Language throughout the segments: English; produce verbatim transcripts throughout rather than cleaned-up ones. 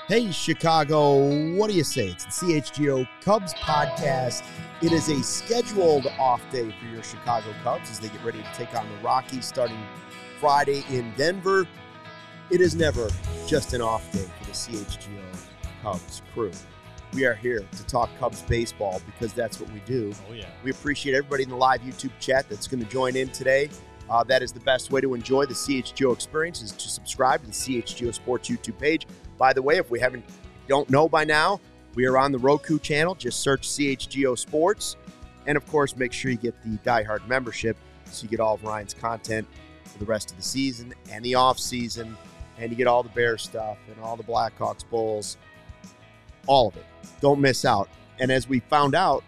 Hey, Chicago, what do you say? It's the C H G O Cubs podcast. It is a scheduled off day for your Chicago Cubs as they get ready to take on the Rockies starting Friday in Denver. It is never just an off day for the C H G O Cubs crew. We are here to talk Cubs baseball because that's what we do. Oh, yeah. We appreciate everybody in the live YouTube chat that's going to join in today. Uh, that is the best way to enjoy the C H G O experience is to subscribe to the C H G O Sports YouTube page. By the way, if we haven't don't know by now, we are on the Roku channel. Just search C H G O Sports. And, of course, make sure you get the Die Hard membership so you get all of Ryan's content for the rest of the season and the off season. And you get all the Bears stuff and all the Blackhawks Bulls, all of it. Don't miss out. And as we found out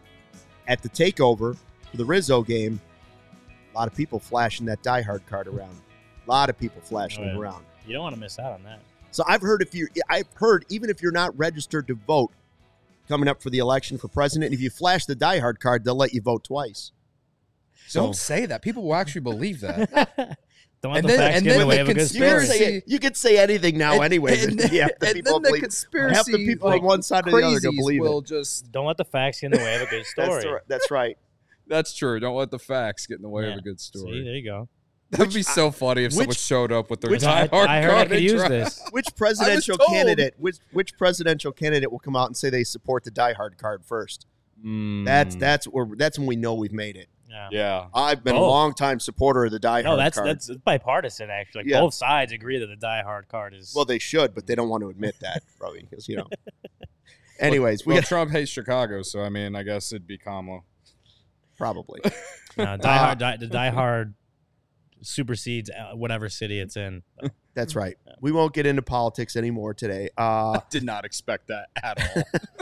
at the takeover for the Rizzo game, a lot of people flashing that Die Hard card around. A lot of people flashing Oh, yeah. it around. You don't want to miss out on that. So I've heard if you, I've heard even if you're not registered to vote coming up for the election for president, if you flash the Die Hard card, they'll let you vote twice. So, Don't say that. People will actually believe that. Don't let And the then- facts and get in then the way the of a good you can, story. conspiracy- say, you can say anything now, And- anyways. and And, then- yeah, the and people then the believe, conspiracy, half the people like, on one side or the other are going to crazies believe will it. just. Don't let the facts get in the way of a good story. That's, the, that's right. That's true. Don't let the facts get in the way Yeah. of a good story. See, there you go. That'd be so funny if someone which- showed up with their which- Die I, Hard I heard I card could and use tried- this. Which presidential told. candidate? Which which presidential candidate will come out and say they support the Die Hard card first? Mm. That's that's where that's when we know we've made it. Yeah. Yeah. I've been a Both. long time supporter of the Die No, Hard that's card. that's it's bipartisan actually. Like, Yeah. both sides agree that the Die Hard card is. Well, they should, but they don't want to admit that, probably, because you know. Anyways, we Well, got Trump hates Chicago, so I mean, I guess it'd be Kamala. probably. no, Die Hard. Die, the Die Hard supersedes uh, whatever city it's in. So, That's right. We won't get into politics anymore today. Uh, Did not expect that at all.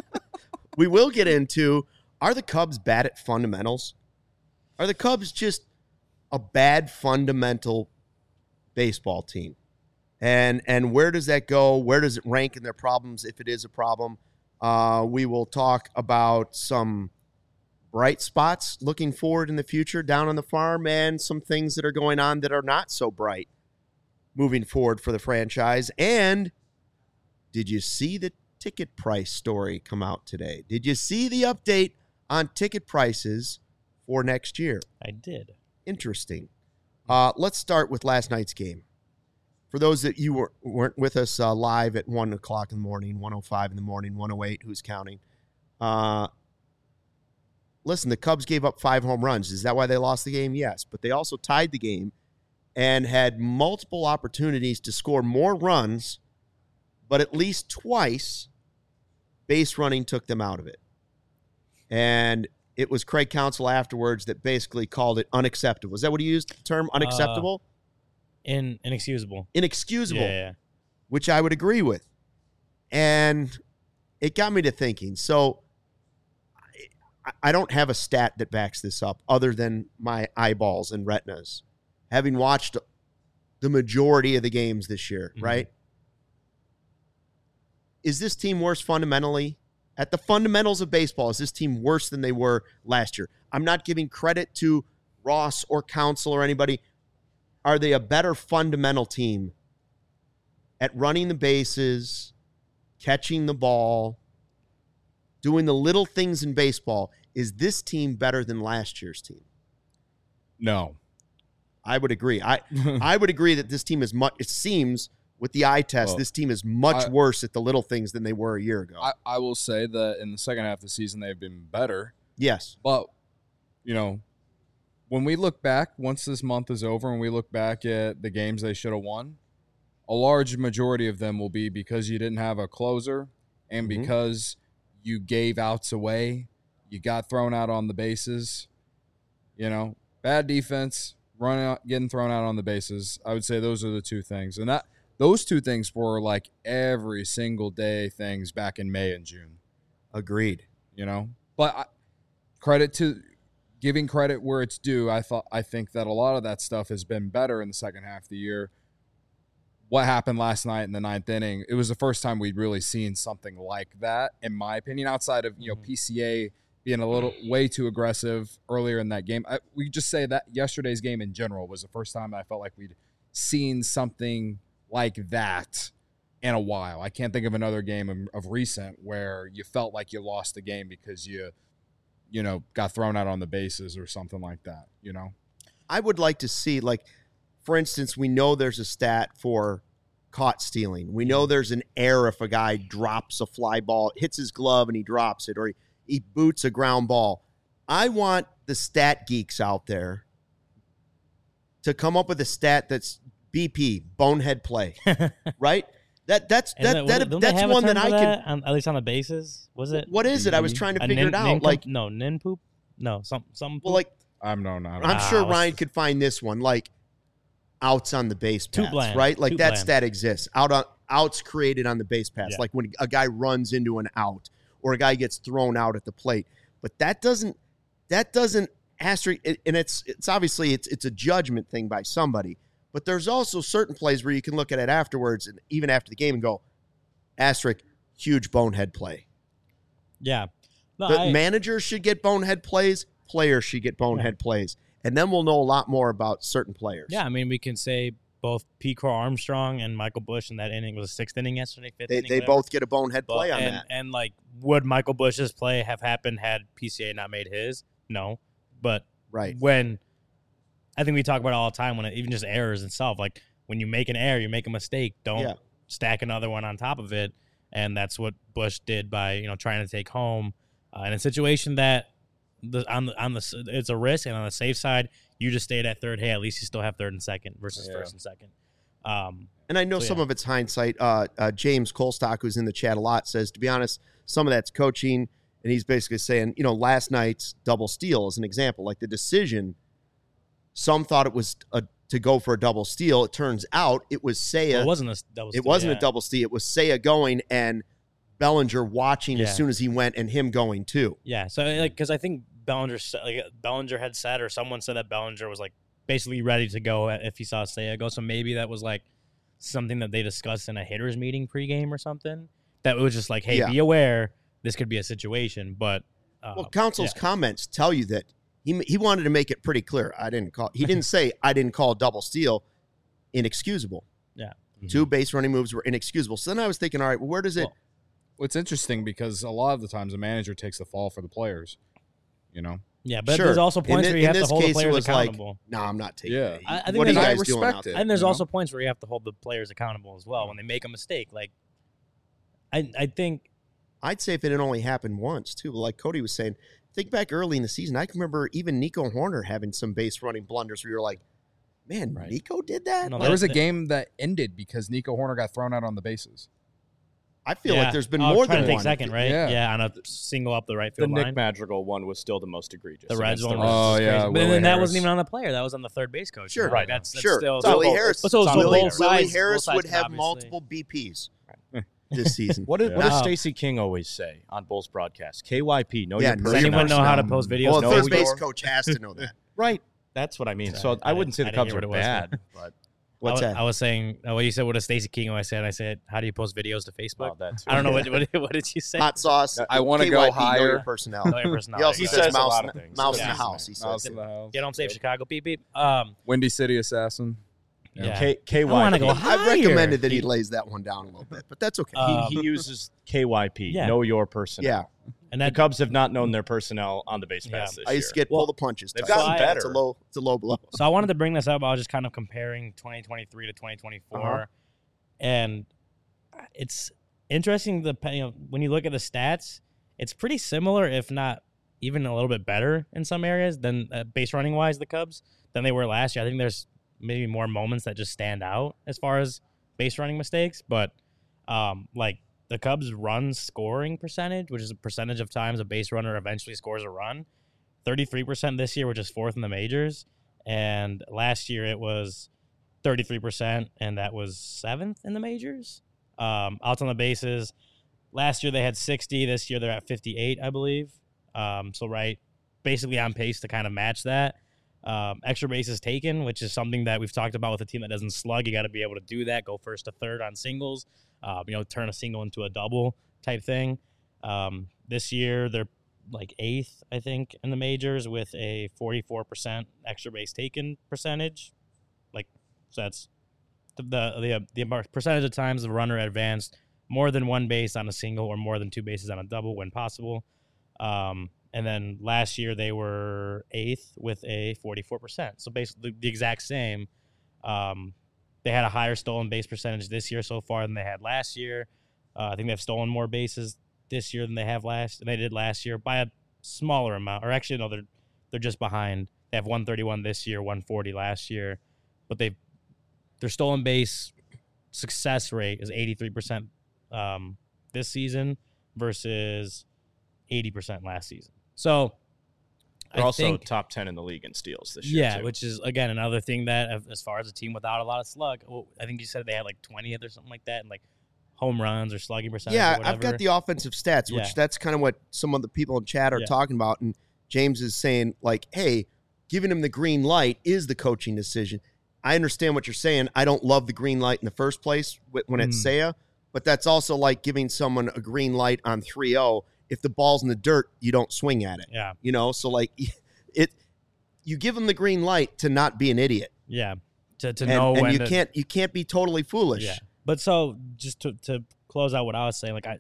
we will get into, are the Cubs bad at fundamentals? Are the Cubs just a bad fundamental baseball team? And and where does that go? Where does it rank in their problems if it is a problem? Uh, we will talk about some bright spots looking forward in the future down on the farm and some things that are going on that are not so bright moving forward for the franchise. And did you see the ticket price story come out today? Did you see the update on ticket prices for next year? I did. Interesting. Uh, let's start with last night's game. For those that you were, weren't with us uh, live at one o'clock in the morning, one oh five in the morning, one oh eight, who's counting? Uh, listen, the Cubs gave up five home runs. Is that why they lost the game? Yes. But they also tied the game and had multiple opportunities to score more runs, but at least twice base running took them out of it. And it was Craig Counsell afterwards that basically called it unacceptable. Is that what he used, the term unacceptable? Uh, In inexcusable. Inexcusable, Yeah, yeah. which I would agree with. And it got me to thinking. So I, I don't have a stat that backs this up other than my eyeballs and retinas, having watched the majority of the games this year, Mhm. right? Is this team worse fundamentally? At the fundamentals of baseball, is this team worse than they were last year? I'm not giving credit to Ross or Counsell or anybody. Are they a better fundamental team at running the bases, catching the ball, doing the little things in baseball? Is this team better than last year's team? No. I would agree. I I would agree that this team is much, it seems, with the eye test, Well, this team is much I- worse at the little things than they were a year ago. I, I will say that in the second half of the season, they've been better. yes. But, you know, when we look back, once this month is over and we look back at the games they should have won, a large majority of them will be because you didn't have a closer and Mhm. because you gave outs away, you got thrown out on the bases, you know, bad defense, running out, getting thrown out on the bases. I would say those are the two things. And that those two things were like every single day things back in May and June. Agreed. You know, but I, credit to giving credit where it's due. I thought I think that a lot of that stuff has been better in the second half of the year. What happened last night in the ninth inning? It was the first time we'd really seen something like that, in my opinion. Outside of you know P C A being a little way too aggressive earlier in that game, I, we just say that yesterday's game in general was the first time I felt like we'd seen something like that in a while. I can't think of another game of, of recent where you felt like you lost the game because you, you know, got thrown out on the bases or something like that, you know? I would like to see, like, for instance, we know there's a stat for caught stealing. We know there's an error if a guy drops a fly ball, hits his glove and he drops it, or he, he boots a ground ball. I want the stat geeks out there to come up with a stat that's B P, bonehead play, right? That that's that, that, that, don't that's they have a one term that for I can. that? On, at least on the bases, was it? What is it? I was trying to A figure nin, it out. nin Like no nin poop. No, some some. well, like I'm no, not. I'm sure Ah, Ryan what's- could find this one, like outs on the base Too paths, bland. right? Like Too that bland. stat exists. Out on outs created on the base paths, Yeah. like when a guy runs into an out or a guy gets thrown out at the plate. But that doesn't that doesn't asterisk, and it's it's obviously it's it's a judgment thing by somebody. But there's also certain plays where you can look at it afterwards and even after the game and go, asterisk, huge bonehead play. Yeah. No, The I, managers should get bonehead plays. Players should get bonehead plays. And then we'll know a lot more about certain players. yeah, I mean, we can say both P. Crow Armstrong and Michael Busch in that inning was a sixth inning yesterday, fifth They, inning. they whatever. both get a bonehead But- play on and, that. And like, would Michael Busch's play have happened had P C A not made his? No. But Right. when I think we talk about it all the time when it, even just errors itself, like when you make an error, you make a mistake, don't Yeah. stack another one on top of it. And that's what Busch did by, you know, trying to take home uh, in a situation that the on the on the it's a risk, and on the safe side, you just stayed at third. Hey, at least you still have third and second versus Yeah. first and second. Um, And I know So, some yeah. of it's hindsight. Uh, uh, James Colstock, who's in the chat a lot, says, to be honest, some of that's coaching. And he's basically saying, you know, last night's double steal is an example. Like the decision, some thought it was a, to go for a double steal. It turns out it was Seiya. well, it wasn't a double. It wasn't a double steal. It was Seiya going and Bellinger watching Yeah. as soon as he went and him going too. Yeah, so like because I think Bellinger said- like Bellinger had said, or someone said that Bellinger was like basically ready to go if he saw Seiya go. So maybe that was like something that they discussed in a hitters meeting pregame or something. That was just like, hey, Yeah. be aware this could be a situation. But uh, Well, Council's yeah. comments tell you that he he wanted to make it pretty clear. I didn't call. He didn't say I didn't call double steal inexcusable. Yeah. Two base running moves were inexcusable. So then I was thinking, all right, well, where does it? Well, It's interesting because a lot of the times the manager takes the fall for the players, you know? yeah, but Sure. there's also In points thi- where you in have to this hold the case, it players was like, accountable. no, I'm not taking Yeah. it. I- I think What are you there's- I guys doing respect out it. there? And there's you know? also points where you have to hold the players accountable as well when they make a mistake. Like, I I think I'd say if it had only happened once too, like Cody was saying, think back early in the season. I can remember even Nico Horner having some base running blunders where you're like, man, Right. Nico did that? No, Like, There was a that- game that ended because Nico Horner got thrown out on the bases. I feel yeah. like there's been Oh, more trying than to take one. second, right? Yeah. Yeah, on a single up the right The field Nick line. Madrigal one was still the most egregious. The Reds against one the was Oh, just yeah, crazy. But Willie then that Harris. wasn't even on the player. That was on the third base coach. Sure. Like, Right. That's, that's Sure. still So Willie so- Harris, so- so Willie, both Willie sides- Harris both would sides have obviously- multiple B Ps this season. What did, what Yeah. does Stacey King always say on Bulls broadcast? K Y P, know Yeah, your know Does your personnel. anyone know how to personnel. post videos? Well, a know third your- base coach has to know that. Right. That's what I mean. So I I wouldn't say didn't- the I Cubs didn't are hear what it was. bad, but What's I, was- that? I was saying, uh, well, you said what does Stacey King always said. I said, how do you post videos to Facebook? oh, that's I don't know what, what what did you say? Hot sauce. I wanna K go Y P, know higher. your personnel. Know your personality. He also He says says a mouse, lot of things. mouse in Yeah. the house. He Mouse says. in the house. Get home safe, Chicago. Beep beep. Um, Windy City Assassin. yeah. K- KYP. I wanna go I've higher. recommended that he lays that one down a little bit, but that's okay. Uh, he, he uses K Y P, Yeah. know your personnel. yeah, and The that Cubs have not known their personnel on the base Yeah. pass this I used to year. get pull the punches. they've type. gotten Yeah, better. It's a low. It's a low blow. So I wanted to bring this up. I was just kind of comparing twenty twenty-three to twenty twenty-four, Uh-huh. and it's interesting. The you know, when you look at the stats, it's pretty similar, if not even a little bit better in some areas than uh, base running wise. The Cubs than they were last year. I think there's maybe more moments that just stand out as far as base running mistakes, but um, like the Cubs' run scoring percentage, which is a percentage of times a base runner eventually scores a run, thirty-three percent this year, which is fourth in the majors. And last year it was thirty-three percent, and that was seventh in the majors. Um, outs on the bases, last year they had sixty. This year they're at fifty-eight, I believe. Um, so, right, basically on pace to kind of match that. Um, extra bases taken, which is something that we've talked about with a team that doesn't slug. You got to be able to do that, go first to third on singles, uh, you know, turn a single into a double type thing. Um, this year they're like eighth, I think, in the majors with a forty-four percent extra base taken percentage. Like, so that's the the the, the percentage of times the runner advanced more than one base on a single or more than two bases on a double when possible. Um, and then last year they were eighth with a forty-four percent. So basically the exact same. Um, they had a higher stolen base percentage this year so far than they had last year. Uh, I think they've stolen more bases this year than they have last than they did last year by a smaller amount. Or actually, no, they're they're just behind. They have one thirty-one this year, one forty last year, but they their stolen base success rate is eighty-three percent um, this season versus eighty percent last season. So they're I also think, top ten in the league in steals this year. Yeah, too. which is again another thing that as far as a team without a lot of slug, well, I think you said they had like twentieth or something like that, and like home runs or slugging percentage. Yeah, or whatever. I've got the offensive stats, which Yeah. that's kind of what some of the people in chat are Yeah. talking about. And James is saying, like, hey, giving him the green light is the coaching decision. I understand what you're saying. I don't love the green light in the first place wh- when it's Mm. Seiya, but that's also like giving someone a green light on three oh. If the ball's in the dirt, you don't swing at it. Yeah, You know, so like it, you give them the green light to not be an idiot. yeah. To to And, know and when you to, can't you can't be totally foolish. Yeah, but so just to to close out what I was saying, like I,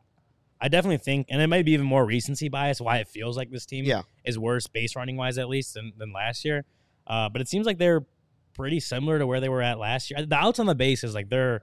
I definitely think, and it might be even more recency bias why it feels like this team Yeah. is worse base running wise at least than, than last year. Uh, but it seems like they're pretty similar to where they were at last year. The outs on the base is like they're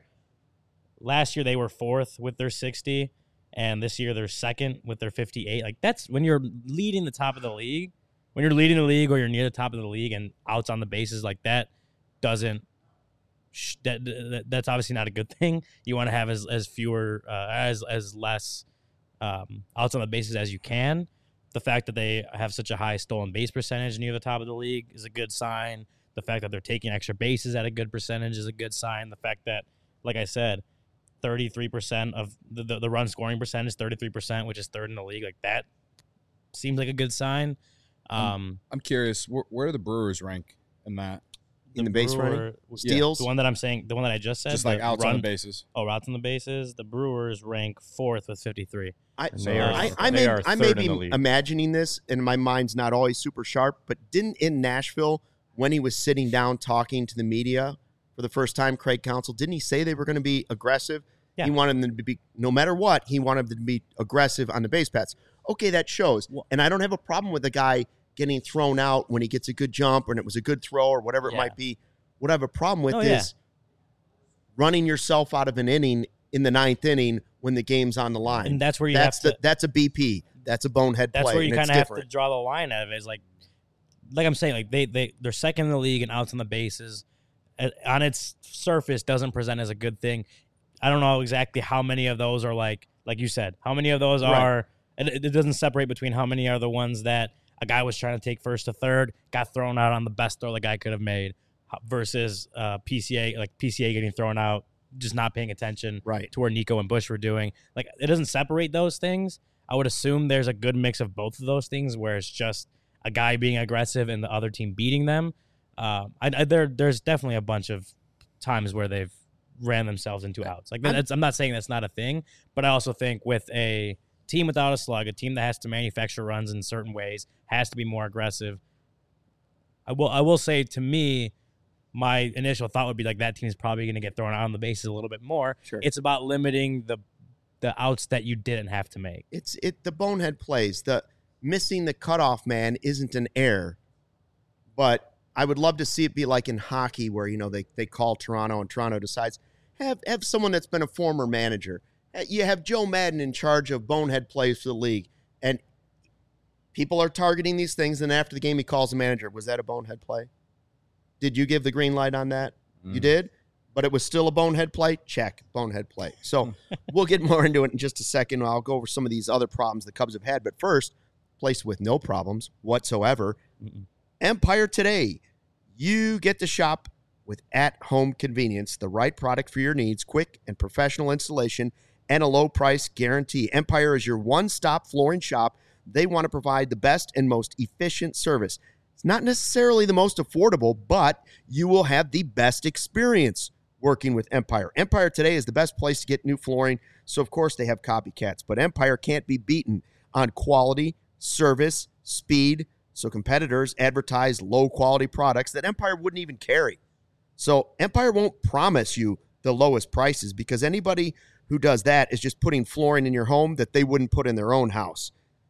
last year they were fourth with their sixty, and this year they're second with their fifty-eight. Like that's when you're leading the top of the league, when you're leading the league or you're near the top of the league, and outs on the bases like that doesn't. That, that that's obviously not a good thing. You want to have as as fewer uh, as as less um, outs on the bases as you can. The fact that they have such a high stolen base percentage near the top of the league is a good sign. The fact that they're taking extra bases at a good percentage is a good sign. The fact that, like I said, thirty-three percent of the, the, the run scoring percentage, thirty-three percent, which is third in the league, like that seems like a good sign. Um, I'm curious, where, where do the Brewers rank in that? In the, base Brewer- running, steals. The one that I'm saying, the one that I just said, Just like the outs run, on the bases. Oh, routes on the bases. The Brewers rank fourth with fifty-three. I, And they are- I, I they may, are I may third be in the league. imagining this, and my mind's not always super sharp, but didn't in Nashville, when he was sitting down talking to the media for the first time, Craig Counsell, didn't he say they were going to be aggressive? Yeah. He wanted them to be, no matter what, he wanted them to be aggressive on the base paths. Okay, that shows. Well- And I don't have a problem with a guy getting thrown out when he gets a good jump and it was a good throw or whatever it Yeah. might be. What I have a problem with Oh, is yeah. running yourself out of an inning in the ninth inning when the game's on the line. And that's where you that's have the to. that's a B P. That's a bonehead That's play. where you and it's kind of have to different. draw the line out of it. Is like, like I'm saying, like they they they're second in the league and outs on the bases. Uh, On its surface, doesn't present as a good thing. I don't know exactly how many of those are like, like you said, how many of those Right. are. It, it doesn't separate between how many are the ones that a guy was trying to take first to third, got thrown out on the best throw the guy could have made, versus uh, P C A, like P C A getting thrown out, just not paying attention Right. to where Nico and Bush were doing. Like, it doesn't separate those things. I would assume there's a good mix of both of those things where it's just a guy being aggressive and the other team beating them. Uh, I, I, there, there's definitely a bunch of times where they've ran themselves into outs. Like, I'm- that's, I'm not saying that's not a thing, but I also think with a team without a slug, a team that has to manufacture runs in certain ways, has to be more aggressive. I will, I will say, to me, my initial thought would be like that team's probably going to get thrown out on the bases a little bit more. Sure. It's about limiting the the outs that you didn't have to make. It's it the bonehead plays. The missing the cutoff man isn't an error, but I would love to see it be like in hockey where, you know, they, they call Toronto and Toronto decides have have someone that's been a former manager. Uh, You have Joe Madden in charge of bonehead plays for the league, and people are targeting these things. And after the game, he calls the manager. Was that a bonehead play? Did you give the green light on that? You did, but it was still a bonehead play. Check, bonehead play. So we'll get more into it in just a second. I'll go over some of these other problems the Cubs have had. But first, place with no problems whatsoever. Mm-mm. Empire Today. You get to shop with at-home convenience, the right product for your needs, quick and professional installation, and a low price guarantee. Empire is your one-stop flooring shop. They want to provide the best and most efficient service. It's not necessarily the most affordable, but you will have the best experience working with Empire. Empire Today is the best place to get new flooring, so of course they have copycats, but Empire can't be beaten on quality, service, speed, so competitors advertise low-quality products that Empire wouldn't even carry. So Empire won't promise you the lowest prices because anybody who does that is just putting flooring in your home that they wouldn't put in their own house.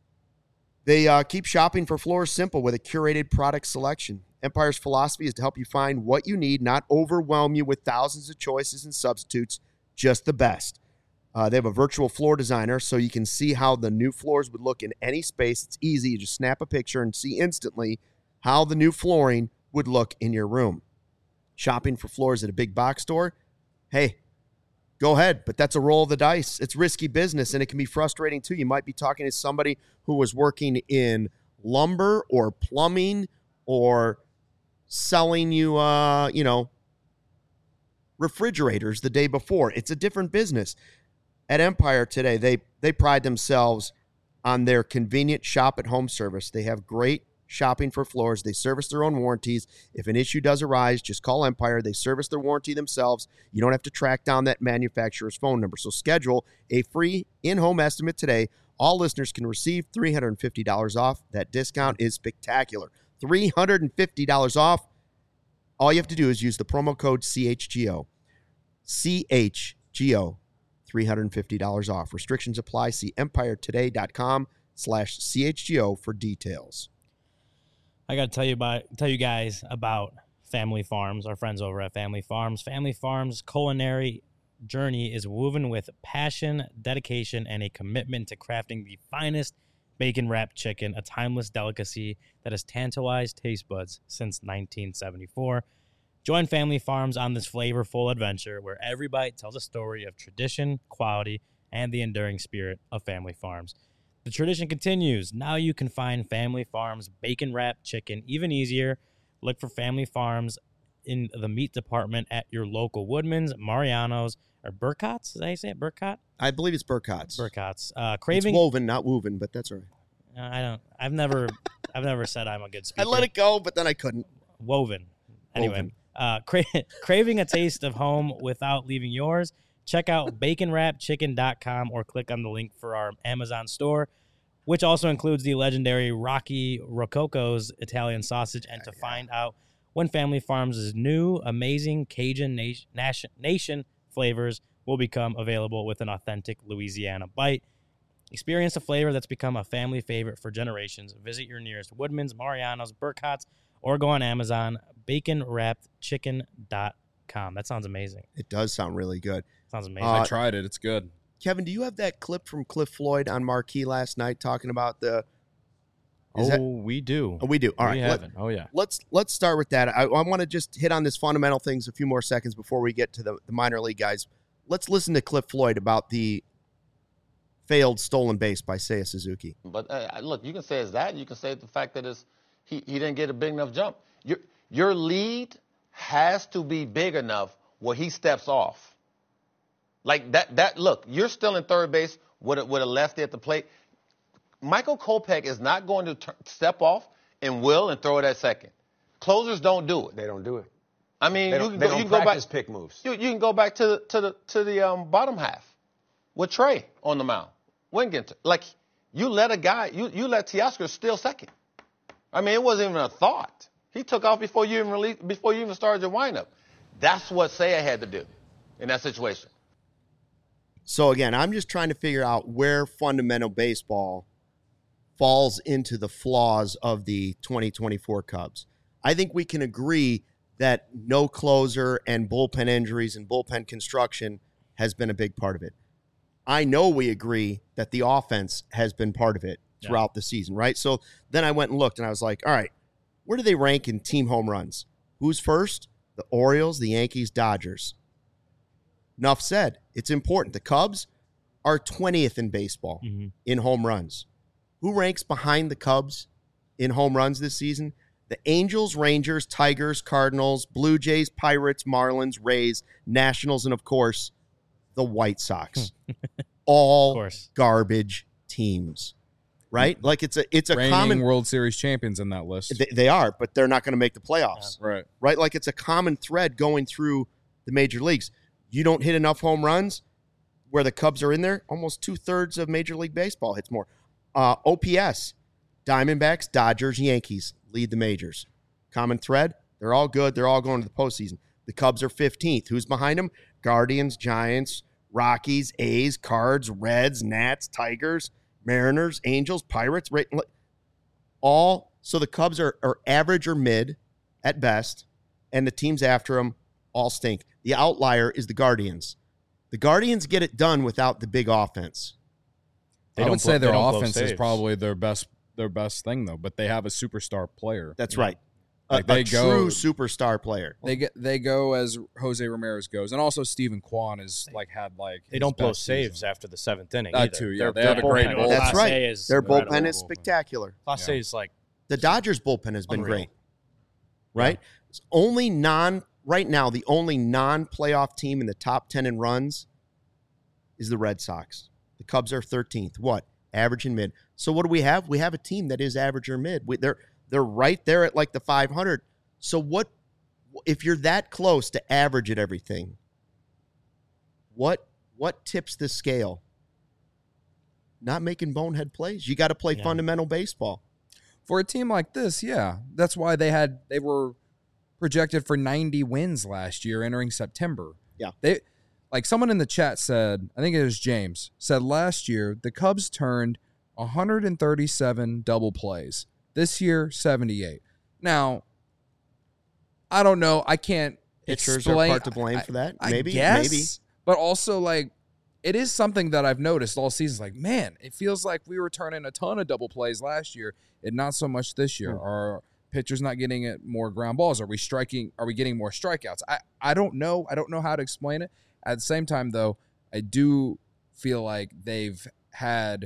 They uh, keep shopping for floors simple with a curated product selection. Empire's philosophy is to help you find what you need, not overwhelm you with thousands of choices and substitutes, just the best. Uh, they have a virtual floor designer so you can see how the new floors would look in any space. It's easy. You just snap a picture and see instantly how the new flooring would look in your room. Shopping for floors at a big box store? Hey, go ahead, but that's a roll of the dice. It's risky business, and it can be frustrating too. You might be talking to somebody who was working in lumber or plumbing or selling you, uh, you know, refrigerators the day before. It's a different business. At Empire today, they they pride themselves on their convenient shop-at-home service. They have great shopping for floors. They service their own warranties. If an issue does arise, just call Empire. They service their warranty themselves. You don't have to track down that manufacturer's phone number. So schedule a free in-home estimate today. All listeners can receive three hundred fifty dollars off. That discount is spectacular. three hundred fifty dollars off. All you have to do is use the promo code C H G O. C H G O. three hundred fifty dollars off. Restrictions apply. See empiretoday.com slash CHGO for details. I got to tell you about tell you guys about Family Farms, our friends over at Family Farms. Family Farms' culinary journey is woven with passion, dedication, and a commitment to crafting the finest bacon-wrapped chicken, a timeless delicacy that has tantalized taste buds since nineteen seventy-four. Join Family Farms on this flavorful adventure where every bite tells a story of tradition, quality, and the enduring spirit of Family Farms. The tradition continues. Now you can find Family Farms bacon-wrapped chicken even easier. Look for Family Farms in the meat department at your local Woodman's, Mariano's, or Burcott's. Is that how you say it? Burcott? I believe it's Burcott's. Burcott's. Uh, craving. It's woven, not woven, but that's all right. Uh, I don't. I've never. I've never said I'm a good speaker. I let it go, but then I couldn't. Woven. Anyway, Woven. Uh, cra- craving a taste of home without leaving yours? Check out bacon wrap chicken dot com or click on the link for our Amazon store, which also includes the legendary Rocky Rococo's Italian sausage. And to find out when Family Farms' new amazing Cajun nation, nation, nation flavors will become available with an authentic Louisiana bite. Experience a flavor that's become a family favorite for generations. Visit your nearest Woodman's, Mariano's, Burcott's, or go on Amazon, bacon wrapped chicken dot com. That sounds amazing. It does sound really good. Sounds amazing. Uh, I tried it. It's good. Kevin, do you have that clip from Cliff Floyd on Marquee last night talking about the... Oh, Is that- we do. Oh, we do. All right. we let- haven't. Oh, yeah. Let's let's start with that. I, I want to just hit on this fundamental things a few more seconds before we get to the, the minor league guys. Let's listen to Cliff Floyd about the failed stolen base by Seiya Suzuki. But uh, look, you can say it's that. You can say it's the fact that it's, he, he didn't get a big enough jump. Your, your lead has to be big enough where he steps off. Like that, that look, you're still in third base with a, with a lefty at the plate. Michael Kopech is not going to tur step off and will and throw it at second. Closers don't do it. They don't do it. I mean, They you don't, can they go, don't you can go back. practice pick moves. You, you can go back to the to the to the um, bottom half with Trey on the mound. Wingenter, like you let a guy, you you let Teoscar steal second. I mean, it wasn't even a thought. He took off before you even release, before you even started your windup. That's what Seiya had to do in that situation. So again, I'm just trying to figure out where fundamental baseball falls into the flaws of the twenty twenty-four Cubs. I think we can agree that no closer and bullpen injuries and bullpen construction has been a big part of it. I know we agree that the offense has been part of it throughout yeah. the season, right? So then I went and looked, and I was like, all right, where do they rank in team home runs? Who's first? The Orioles, the Yankees, Dodgers. Enough said. It's important. The Cubs are twentieth in baseball mm-hmm. in home runs. Who ranks behind the Cubs in home runs this season? The Angels, Rangers, Tigers, Cardinals, Blue Jays, Pirates, Marlins, Rays, Nationals, and, of course, the White Sox. All garbage teams, right? Like it's a it's a Reigning common World Series champions in that list. They, they are, but they're not going to make the playoffs, yeah, right? Right? Like it's a common thread going through the major leagues. You don't hit enough home runs where the Cubs are in there. Almost two thirds of Major League Baseball hits more. Uh, O P S, Diamondbacks, Dodgers, Yankees lead the majors. Common thread. They're all good. They're all going to the postseason. The Cubs are fifteenth. Who's behind them? Guardians, Giants, Rockies, A's, Cards, Reds, Nats, Tigers, Mariners, Angels, Pirates. Right, all. So the Cubs are, are average or mid at best, and the teams after them all stink. The outlier is the Guardians. The Guardians get it done without the big offense. They I don't would blow- say they their don't blow offense is saves. probably their best their best thing though, but they have a superstar player. That's Yeah. right. A, Like, they a go- true superstar player. They get they go as Jose Ramirez goes, and also Stephen Kwan is like had like They his don't blow best saves season. after the seventh inning. That either. too, yeah. Their- They their have a great bullpen- bullpen. That's Class right. A is Their incredible. bullpen is spectacular. Class Yeah. A is like The Dodgers bullpen has been Unreal. great. Right? It's only non right now, the only non-playoff team in the top ten in runs is the Red Sox. The Cubs are thirteenth. What? Average and mid. So what do we have? We have a team that is average or mid. We, they're they're right there at like the five hundred. So what if you're that close to average at everything? What what tips the scale? Not making bonehead plays. You got to play Yeah. fundamental baseball. For a team like this, yeah. That's why they had they were projected for ninety wins last year entering September. Yeah. They like someone in the chat said, I think it was James, said last year the Cubs turned one hundred thirty-seven double plays. This year, seventy-eight. Now, I don't know. I can't Pitchers explain. are part to blame for that. I Maybe, guess, maybe. But also, like, it is something that I've noticed all season. Like, man, it feels like we were turning a ton of double plays last year and not so much this year. Hmm. Are pitchers not getting it more ground balls? Are we striking? Are we getting more strikeouts? I, I don't know. I don't know how to explain it. At the same time, though, I do feel like they've had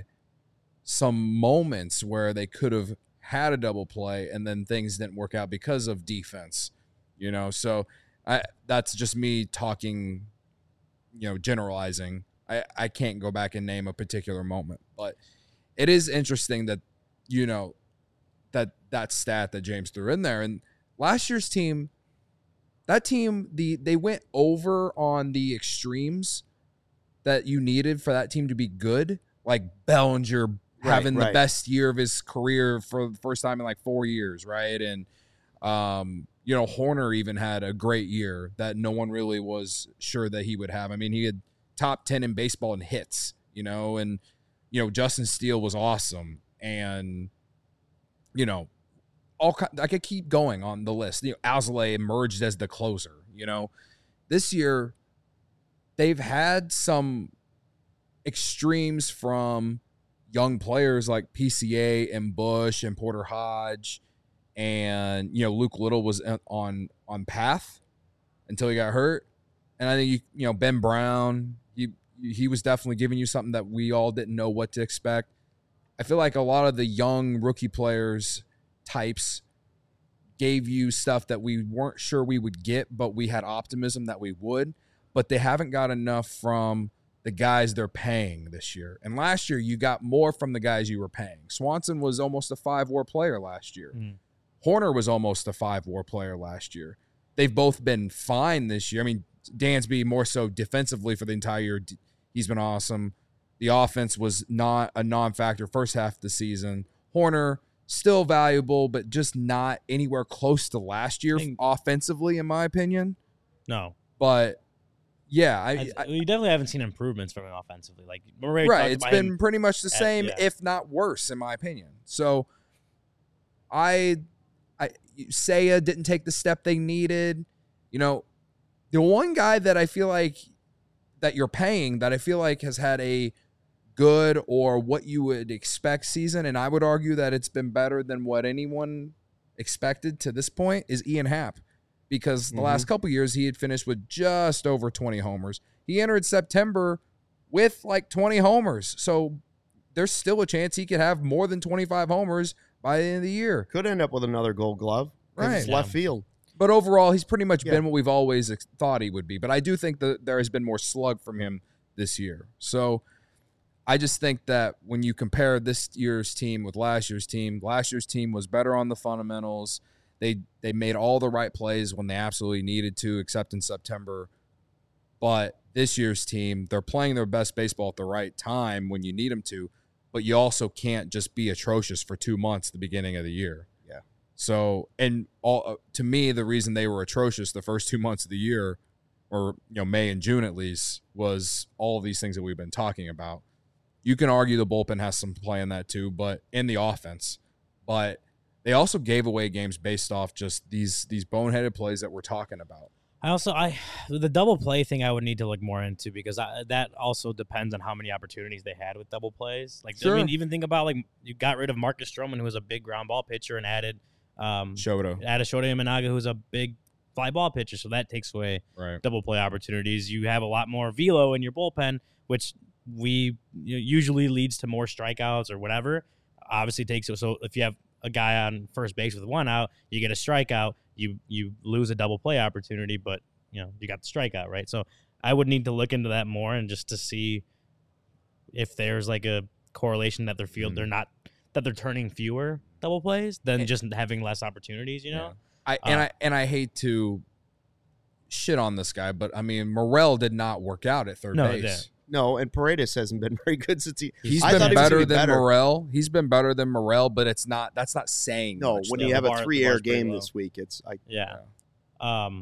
some moments where they could have had a double play and then things didn't work out because of defense. You know, so I that's just me talking, you know, generalizing. I, I can't go back and name a particular moment, but it is interesting that, you know, that that stat that James threw in there. And last year's team, that team, the they went over on the extremes that you needed for that team to be good, like Bellinger Right, having the right. best year of his career for the first time in like four years, right? And um, you know, Horner even had a great year that no one really was sure that he would have. I mean, he had top ten in baseball in hits, you know, and, you know, Justin Steele was awesome. And, you know, all ki- I could keep going on the list. You know, Alzolay emerged as the closer, you know. This year, they've had some extremes from young players like P C A and Bush and Porter Hodge. And, you know, Luke Little was on on path until he got hurt. And I think, you you know, Ben Brown, he, he was definitely giving you something that we all didn't know what to expect. I feel like a lot of the young rookie players types gave you stuff that we weren't sure we would get, but we had optimism that we would. But they haven't got enough from the guys they're paying this year. And last year, you got more from the guys you were paying. Swanson was almost a five-war player last year. Mm. Horner was almost a five-war player last year. They've both been fine this year. I mean, Dansby more so defensively for the entire year. He's been awesome. The offense was not a non-factor first half of the season. Horner, still valuable, but just not anywhere close to last year I think- offensively, in my opinion. No, But, yeah, I, I, I, we definitely haven't seen improvements from him offensively. Like remember we right, talked it's about been him- pretty much the at- same, yeah. if not worse, in my opinion. So, I, I, Seiya didn't take the step they needed. You know, the one guy that I feel like that you're paying that I feel like has had a good or what you would expect season, and I would argue that it's been better than what anyone expected to this point, is Ian Happ. Because the Mhm. last couple years he had finished with just over twenty homers. He entered September with like twenty homers. So there's still a chance he could have more than twenty-five homers by the end of the year. Could end up with another Gold Glove. 'Cause It's Right. left Yeah. field. But overall, he's pretty much Yeah. been what we've always ex- thought he would be. But I do think that there has been more slug from him this year. So I just think that when you compare this year's team with last year's team, last year's team was better on the fundamentals. They they made all the right plays when they absolutely needed to, except in September. But this year's team, they're playing their best baseball at the right time when you need them to. But you also can't just be atrocious for two months at the beginning of the year. Yeah. So, and all uh, to me, the reason they were atrocious the first two months of the year, or you know May and June at least, was all of these things that we've been talking about. You can argue the bullpen has some play in that too, but in the offense, but they also gave away games based off just these these boneheaded plays that we're talking about. I also I the double play thing I would need to look more into because I, that also depends on how many opportunities they had with double plays. Like Sure. I mean, even think about like you got rid of Marcus Stroman, who was a big ground ball pitcher, and added um Shoto, added Shota Imanaga, who's a big fly ball pitcher, so that takes away right? double play opportunities. You have a lot more velo in your bullpen, which we you know, usually leads to more strikeouts or whatever. Obviously takes it. So if you have a guy on first base with one out, you get a strikeout, you you lose a double play opportunity, but you know you got the strikeout, right? So I would need to look into that more and just to see if there's like a correlation that their field Mm. they're not that they're turning fewer double plays than just having less opportunities, you know. I and Uh, I and I hate to shit on this guy, but I mean Morel did not work out at third No, it base. didn't. No, and Paredes hasn't been very good since he. He's I been thought he was better gonna be than better. Morel. He's been better than Morel, but it's not. That's not saying No, much, when though. you have The a bar- the three-air bar's pretty game low. this week, it's like Yeah. Um,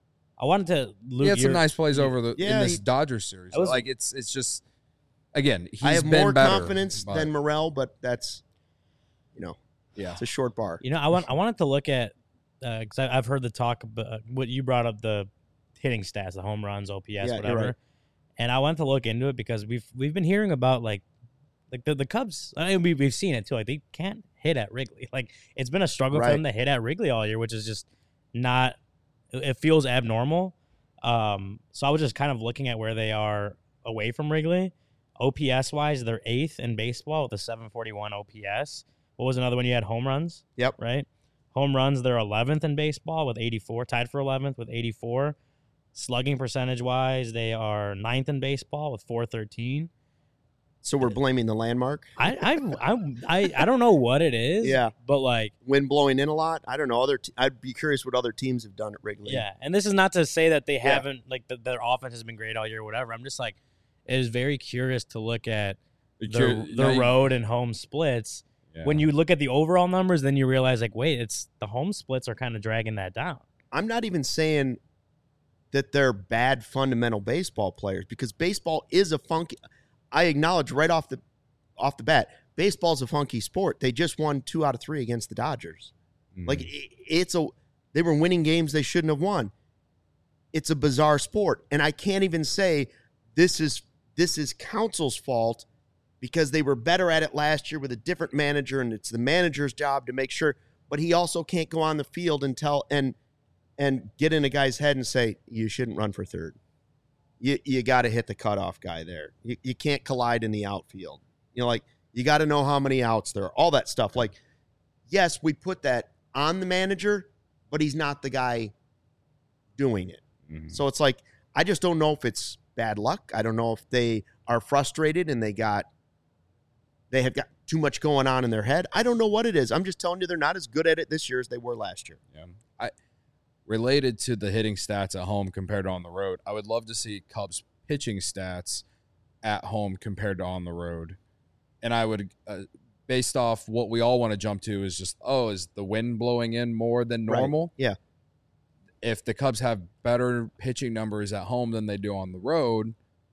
I wanted to. Luke, he had some your- nice plays over the Yeah, in this he- Dodgers series. I was- like it's it's just again. He's I have been more better, confidence but- than Morel, but that's you know yeah. it's a short bar. You know, I want I wanted to look at because I I've heard the talk about what you brought up, the hitting stats, the home runs, O P S, Yeah, you're whatever. right. And I wanted to look into it because we've we've been hearing about like like the, the Cubs. I mean, we we've seen it too. Like they can't hit at Wrigley. Like it's been a struggle for Right. them to hit at Wrigley all year, which is just not. It feels abnormal. Um, so I was just kind of looking at where they are away from Wrigley. O P S wise, they're eighth in baseball with a seven forty-one O P S. What was another one? You had home runs. Yep. Right. Home runs, they're eleventh in baseball with eighty-four, tied for eleventh with eighty-four. Slugging percentage wise, they are ninth in baseball with four thirteen. So we're blaming the landmark. I I I I, I don't know what it is. Yeah. But like Wind blowing in a lot. I don't know. Other te- I'd be curious what other teams have done at Wrigley. yeah, and this is not to say that they Yeah. haven't like the, their offense has been great all year or whatever. I'm just like it is very curious to look at the, Curi- the now you- road and home splits. yeah. When you look at the overall numbers, then you realize like wait, it's the home splits are kind of dragging that down. I'm not even saying that they're bad fundamental baseball players because baseball is a funky. I acknowledge right off the off the bat, baseball's a funky sport. They just won two out of three against the Dodgers. Mhm. Like i- it's a they were winning games they shouldn't have won. It's a bizarre sport, and I can't even say this is this is Council's fault because they were better at it last year with a different manager, and it's the manager's job to make sure. But he also can't go on the field and tell and and get in a guy's head and say you shouldn't run for third. You you got to hit the cutoff guy there. You you can't collide in the outfield. You know, like you got to know how many outs there are. All that stuff. Like, yes, we put that on the manager, but he's not the guy doing it. Mhm. So it's like, I just don't know if it's bad luck. I don't know if they are frustrated and they got, they have got too much going on in their head. I don't know what it is. I'm just telling you they're not as good at it this year as they were last year. Yeah. I related to the hitting stats at home compared to on the road. I would love to see Cubs pitching stats at home compared to on the road. And I would, uh, based off what we all want to jump to, is just, oh, is the wind blowing in more than Right. normal? Yeah. If the Cubs have better pitching numbers at home than they do on the road,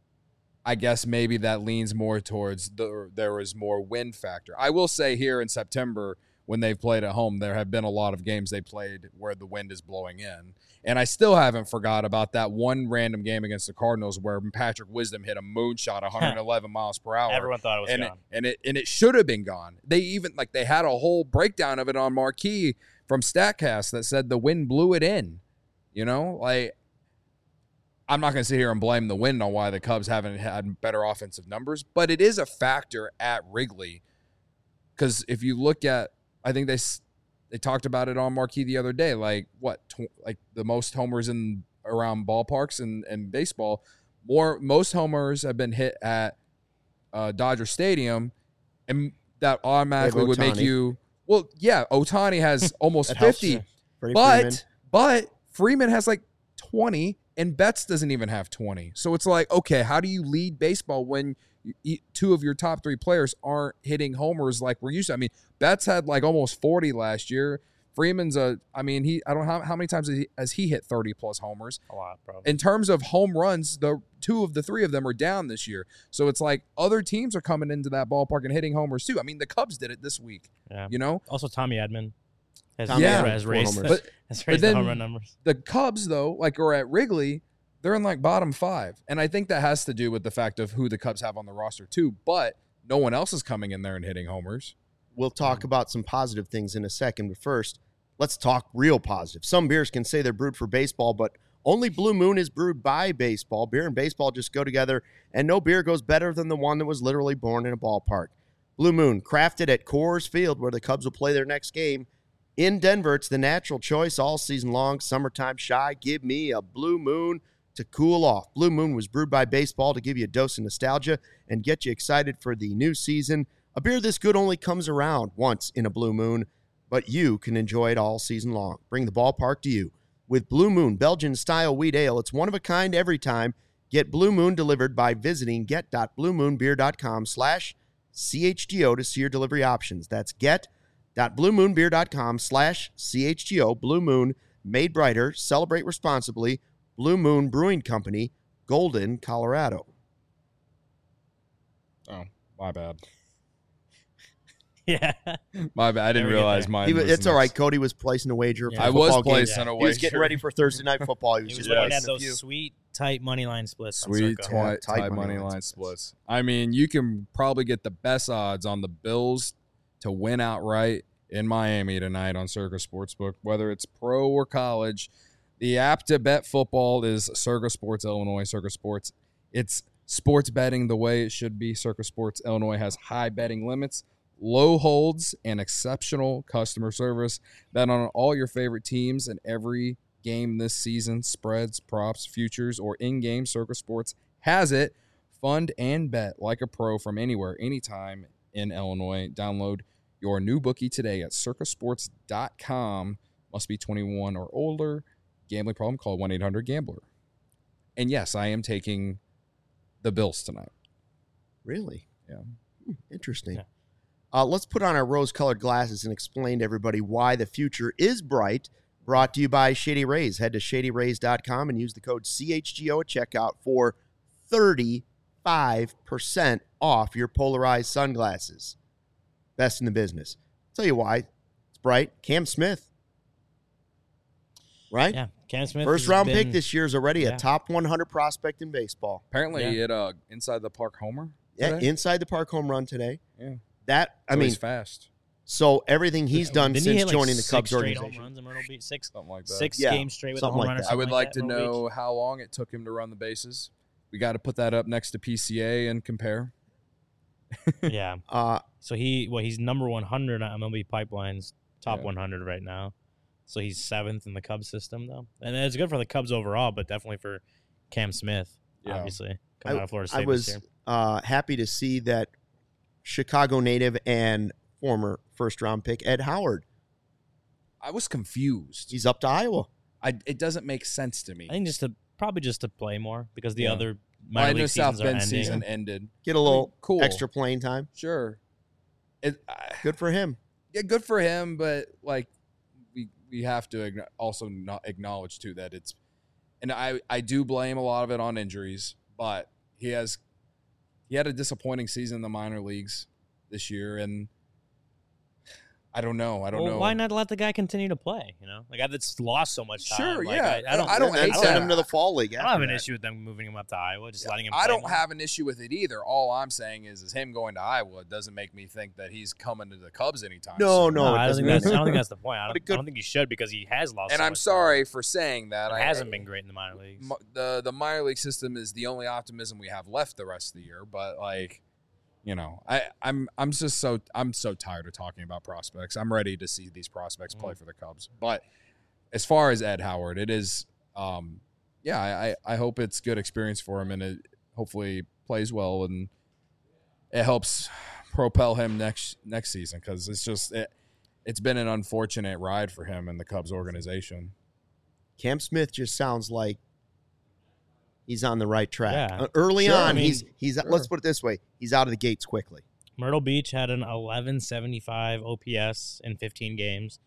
I guess maybe that leans more towards the, there is more wind factor. I will say here in September, when they've played at home, there have been a lot of games they played where the wind is blowing in. And I still haven't forgot about that one random game against the Cardinals where Patrick Wisdom hit a moonshot one hundred eleven miles per hour. Everyone thought it was and gone. It, and it and it should have been gone. They even like they had a whole breakdown of it on Marquee from StatCast that said the wind blew it in. You know, like I'm not going to sit here and blame the wind on why the Cubs haven't had better offensive numbers, but it is a factor at Wrigley. Because if you look at, I think they s- they talked about it on Marquee the other day, like what, tw- like the most homers in around ballparks and, and baseball, more most homers have been hit at uh, Dodger Stadium, and that automatically would make Ohtani. you, well, yeah, Ohtani has almost That helps. fifty, Freddie but Freeman. but Freeman has like twenty, and Betts doesn't even have twenty. So it's like, okay, how do you lead baseball when you, two of your top three players aren't hitting homers like we're used to? I mean, Betts had like almost forty last year. Freeman's a, I mean, he, I don't know how, how many times has he, has he hit thirty plus homers. A lot, probably. In terms of home runs, the two of the three of them are down this year. So it's like other teams are coming into that ballpark and hitting homers too. I mean, the Cubs did it this week. Yeah. You know, Also, Tommy Edman has, Tommy Yeah. has, has Four raised, homers. But- has but raised the then- home run numbers. the Cubs though, like are at Wrigley, they're in like bottom five, and I think that has to do with the fact of who the Cubs have on the roster too. But no one else is coming in there and hitting homers. We'll talk about some positive things in a second, but first, let's talk real positive. Some beers can say they're brewed for baseball, but only Blue Moon is brewed by baseball. Beer and baseball just go together, and no beer goes better than the one that was literally born in a ballpark. Blue Moon, crafted at Coors Field, where the Cubs will play their next game. In Denver, it's the natural choice all season long. Summertime shy, give me a Blue Moon to cool off. Blue Moon was brewed by baseball to give you a dose of nostalgia and get you excited for the new season. A beer this good only comes around once in a Blue Moon, but you can enjoy it all season long. Bring the ballpark to you. With Blue Moon Belgian-style wheat ale, it's one of a kind every time. Get Blue Moon delivered by visiting get.bluemoonbeer.com slash CHGO to see your delivery options. That's get.bluemoonbeer.com slash CHGO. Blue Moon, made brighter. Celebrate responsibly. Blue Moon Brewing Company, Golden, Colorado. Oh, my bad. Yeah. My bad. I didn't Never get realize there. mine. He was, was it's all right. next. Cody was placing a wager Yeah. for I a was football game. placing Yeah. a He was wager. getting ready for Thursday Night Football. He was He was just looking placing at a few. those sweet, tight money line splits. on Sweet, Circa. tight, Yeah, tight tight money money line line splits. splits. I mean, you can probably get the best odds on the Bills to win outright in Miami tonight on Circa Sportsbook, whether it's pro or college. The app to bet football is Circa Sports Illinois. Circa Sports, it's sports betting the way it should be. Circa Sports Illinois has high betting limits, low holds, and exceptional customer service. Bet on all your favorite teams and every game this season. Spreads, props, futures, or in-game. Circa Sports has it. Fund and bet like a pro from anywhere, anytime in Illinois. Download your new bookie today at circa sports dot com. Must be twenty-one or older. Gambling problem? Call one eight hundred gambler. And yes, I am taking the Bills tonight. Really? Yeah. Hmm, interesting. Yeah. Uh, let's put on our rose-colored glasses and explain to everybody why the future is bright. Brought to you by Shady Rays. Head to shady rays dot com and use the code C H G O at checkout for thirty-five percent off your polarized sunglasses. Best in the business. I'll tell you why. It's bright. Cam Smith. Right? Yeah. Cam Smith. First has round been- pick this year is already yeah. a top one hundred prospect in baseball. Apparently, Yeah. he hit a inside the park homer. Yeah, today. inside the park home run today. Yeah. That, I So mean, he's fast. so everything he's done Didn't he since hit, like, joining the six Cubs straight organization. home runs in Myrtle Beach? Six, Something like that. six Yeah, games straight with a something home like run. or that. I would something like that to in Myrtle know Beach. how long it took him to run the bases. We got to put that up next to P C A and compare. Yeah. Uh, So he, well, he's number one hundred on M L B Pipeline's top Yeah. one hundred right now. So he's seventh in the Cubs system, though, and it's good for the Cubs overall, but definitely for Cam Smith, Yeah. obviously coming I, out of Florida I State was this year. uh, happy to see that Chicago native and former first round pick Ed Howard. I was confused. He's up to Iowa. I, it doesn't make sense to me. I think just to probably just to play more because the Yeah. other Well, I minor know league South seasons are Bend ending. season ended. Get a little Cool. extra playing time. Sure. It, I, Good for him. yeah, good for him, but like we we have to agno- also not acknowledge too that it's, and I I do blame a lot of it on injuries, but he has he had a disappointing season in the minor leagues this year, and I don't know. I don't Well, know. why not let the guy continue to play? You know, like that's lost so much time. Sure, Like, yeah. I, I don't. I don't And then hate send that. him to the fall league. I don't after have an that. issue with them moving him up to Iowa, just letting him. I play don't more. have an issue with it either. All I'm saying is, is him going to Iowa doesn't make me think that he's coming to the Cubs anytime No, soon. no, No, it I don't doesn't think that's. I matter. don't think that's the point. I But don't, it could- I don't think he should because he has lost. And so I'm much sorry for saying that. Time. I It hasn't been great in the minor leagues. m- the the minor league system is the only optimism we have left the rest of the year. But like, you know, I I'm I'm just so I'm so tired of talking about prospects. I'm ready to see these prospects play for the Cubs. But as far as Ed Howard, it is, um, yeah, I I I hope it's good experience for him and it hopefully plays well and it helps propel him next next season because it's just it, it's been an unfortunate ride for him in the Cubs organization. Cam Smith just sounds like he's on the right track. Yeah. Uh, early Sure, on, I mean, he's he's sure. let's put it this way: he's out of the gates quickly. Myrtle Beach had an eleven seventy-five O P S in fifteen games.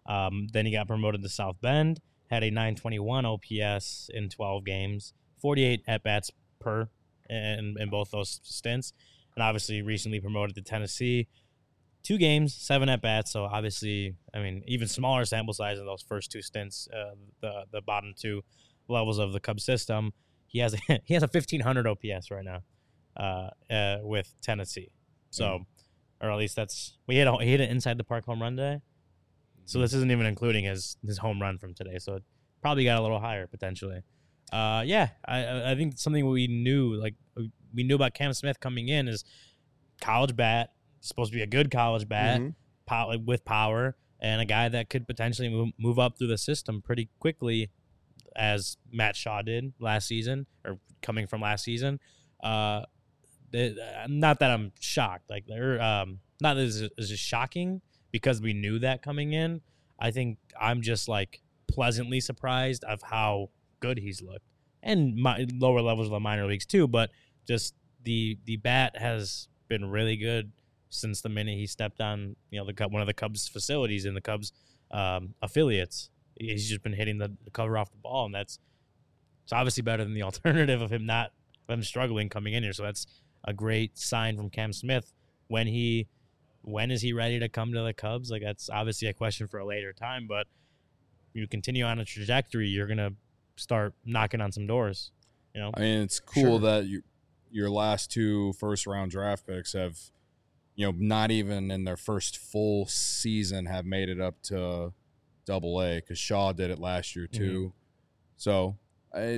Um, then he got promoted to South Bend, had a nine twenty-one O P S in twelve games, forty-eight at-bats per in, in both those stints, and obviously recently promoted to Tennessee. Two games, seven at-bats, so obviously, I mean, even smaller sample size in those first two stints, uh, the the bottom two levels of the Cubs system. He has a, he has a fifteen hundred O P S right now uh, uh, with Tennessee. So, mm. or at least that's – we hit, a, he hit an inside the park home run day. So this isn't even including his, his home run from today. So it probably got a little higher potentially. Uh, yeah, I I think something we knew, like we knew about Cam Smith coming in is college bat, supposed to be a good college bat, mm-hmm. pow- with power, and a guy that could potentially move, move up through the system pretty quickly, as Matt Shaw did last season, or coming from last season. Uh, they, not that I'm shocked, like they're um, not that it's, it's just shocking because we knew that coming in. I think I'm just like pleasantly surprised of how good he's looked, and my lower levels of the minor leagues too. But just the the bat has been really good since the minute he stepped on, you know, the one of the Cubs facilities in the Cubs um, affiliates. He's just been hitting the, the cover off the ball, and that's it's obviously better than the alternative of him not of him struggling coming in here. So that's a great sign from Cam Smith. When he when is he ready to come to the Cubs? Like, that's obviously a question for a later time, but you continue on a trajectory, you're gonna start knocking on some doors. You know, I mean, it's cool sure. that you, your last two first round draft picks have, you know, not even in their first full season have made it up to Double A, because Shaw did it last year too. Mm-hmm. So I,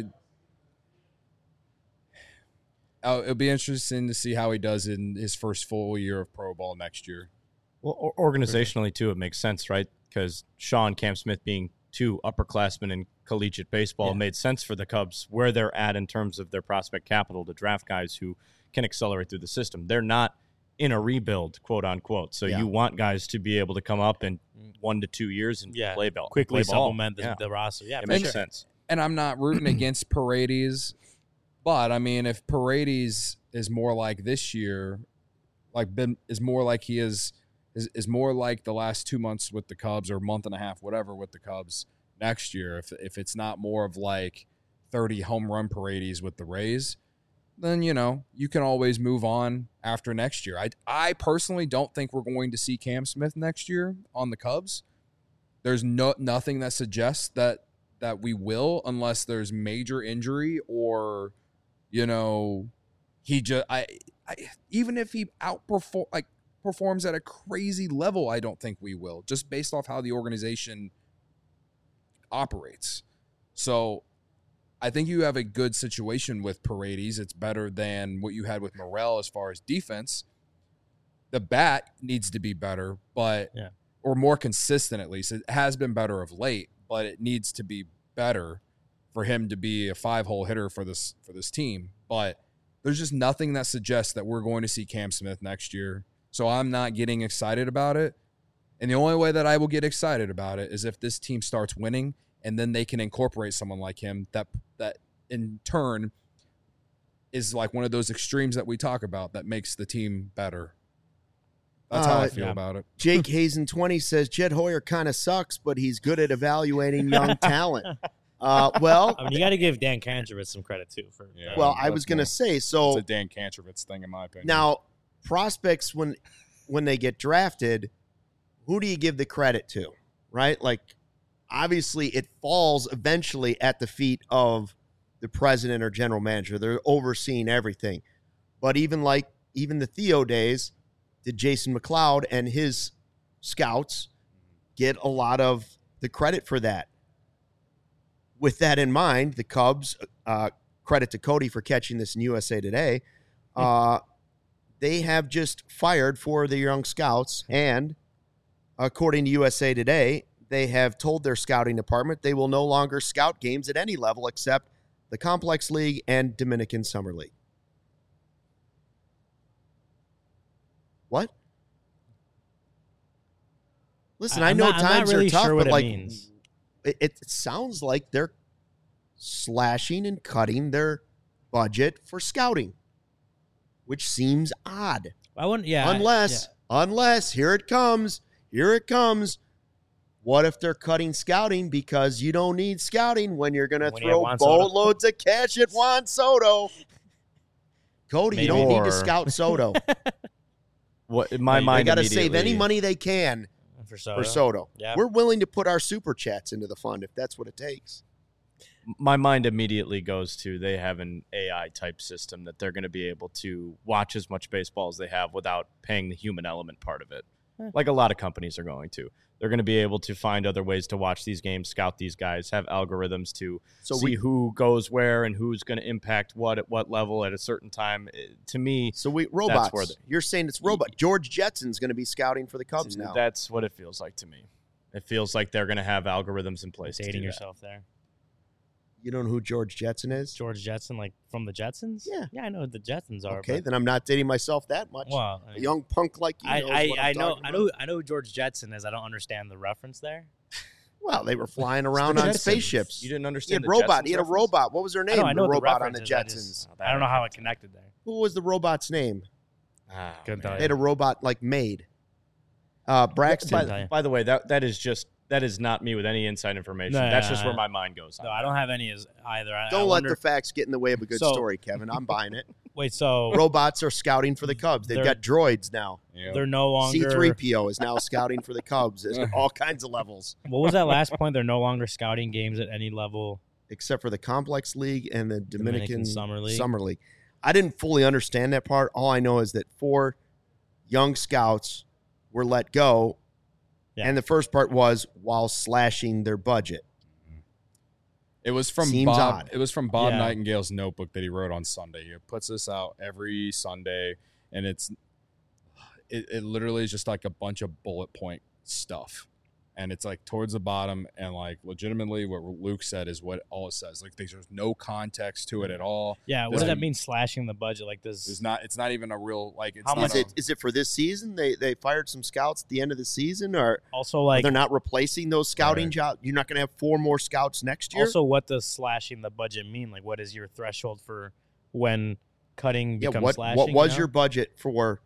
oh, it'll be interesting to see how he does in his first full year of pro ball next year. Well, organizationally too, it makes sense, right? Because Shaw and Cam Smith being two upperclassmen in collegiate baseball, yeah. made sense for the Cubs where they're at in terms of their prospect capital to draft guys who can accelerate through the system. They're not in a rebuild, quote unquote. So yeah. you want guys to be able to come up in one to two years and yeah. play ball, quickly play ball. supplement the, yeah. the roster. Yeah, it makes sure. sense. And I'm not rooting against Paredes, but I mean, if Paredes is more like this year, like been is more like he is, is is more like the last two months with the Cubs or month and a half, whatever, with the Cubs next year. If if it's not more of like thirty home run Paredes with the Rays, then, you know, you can always move on after next year. I, I personally don't think we're going to see Cam Smith next year on the Cubs. There's no nothing that suggests that that we will, unless there's major injury or, you know, he just I, I even if he outperform like performs at a crazy level, I don't think we will, just based off how the organization operates. So I think you have a good situation with Paredes. It's better than what you had with Morel as far as defense. The bat needs to be better, but yeah. or more consistent at least. It has been better of late, but it needs to be better for him to be a five-hole hitter for this for this team. But there's just nothing that suggests that we're going to see Cam Smith next year. So I'm not getting excited about it. And the only way that I will get excited about it is if this team starts winning, and then they can incorporate someone like him that that in turn is like one of those extremes that we talk about that makes the team better. That's how uh, I feel yeah. about it. Jake Hazen twenty says Jed Hoyer kind of sucks, but he's good at evaluating young talent. Uh, well, I mean, you got to give Dan Kantrowitz some credit too. For yeah, well, I was going to say so. It's a Dan Kantrowitz thing, in my opinion. Now, prospects when when they get drafted, who do you give the credit to? Right, like. Obviously, it falls eventually at the feet of the president or general manager. They're overseeing everything. But even like even the Theo days, did Jason McLeod and his scouts get a lot of the credit for that? With that in mind, the Cubs, uh, credit to Cody for catching this in U S A Today, uh, they have just fired four of the young scouts. And according to U S A Today, they have told their scouting department they will no longer scout games at any level except the Complex League and Dominican Summer League. What? Listen, I, I know not, times really are tough, sure but it like means. It, it sounds like they're slashing and cutting their budget for scouting, which seems odd. I wouldn't, yeah. Unless, I, yeah. unless, here it comes, here it comes. What if they're cutting scouting because you don't need scouting when you're going to When you have throw Juan Soto. boatloads of cash at Juan Soto? Cody, you don't need to Or- scout Soto. What in my They mind, got to save any immediately- money they can For Soto. for Soto. Yeah. We're willing to put our super chats into the fund if that's what it takes. my mind immediately goes to they have an A I type system that they're going to be able to watch as much baseball as they have without paying the human element part of it. Eh. Like a lot of companies are going to. They're going to be able to find other ways to watch these games, scout these guys, have algorithms to So see we who goes where and who's going to impact what at what level at a certain time. Eh, To me, so we robots. where the- You're saying it's robot. George Jetson's going to be scouting for the Cubs now. that's what it feels like to me. It feels like they're going to have algorithms in place. to Dating do that. yourself there. You don't know who George Jetson is? George Jetson, like from the Jetsons? Yeah. Yeah, I know who the Jetsons are. Okay, but- then I'm not dating myself that much. Well, A young punk like you I, knows I, what I I'm know, talking I about. know, I know who George Jetson is. I don't understand the reference there. Well, they were flying around The on Jetsons. spaceships. You didn't He had understand the robot. Jetsons He had a reference? robot. What was her I name? know, I know the what the robot on the reference is. I Jetsons. just- I don't know how it connected there. Who was the robot's name? Ah, Couldn't man. tell They had a robot like maid. Uh, Braxton. tell By, you. by the way, that that is just that is not me with any inside information. No, That's no, just no. where my mind goes. No, I don't have any as either. I, Don't I let wonder, the facts get in the way of a good So- story, Kevin. I'm buying it. wait. So Robots are scouting for the Cubs. They've They're- got droids now. Yeah. they're no longer. C three P O is now scouting for the Cubs at all kinds of levels, What was that last point? They're no longer scouting games at any level. except for the Complex League and the Dominican, Dominican Summer League. Summer League. I didn't fully understand that part. All I know is that four young scouts were let go, Yeah. and the first part was while slashing their budget. It was from Seems Bob. odd. It was from Bob Yeah. Nightingale's notebook that he wrote on Sunday. He puts this out every Sunday, and it's it, it literally is just like a bunch of bullet point stuff, and it's like towards the bottom, and like legitimately what Luke said is what all it says. Like there's no context to it at all. Yeah. What Does does it- that mean? Slashing the budget like this? It's not. It's not even a real like. It's How not much Is a- it is it for this season? They they fired some scouts at the end of the season, or Also, like, they're not replacing those scouting Right. jobs? You're not going to have four more scouts next year. also, what does slashing the budget mean? Like, what is your threshold for when cutting yeah, becomes what slashing? what you was know? your budget for?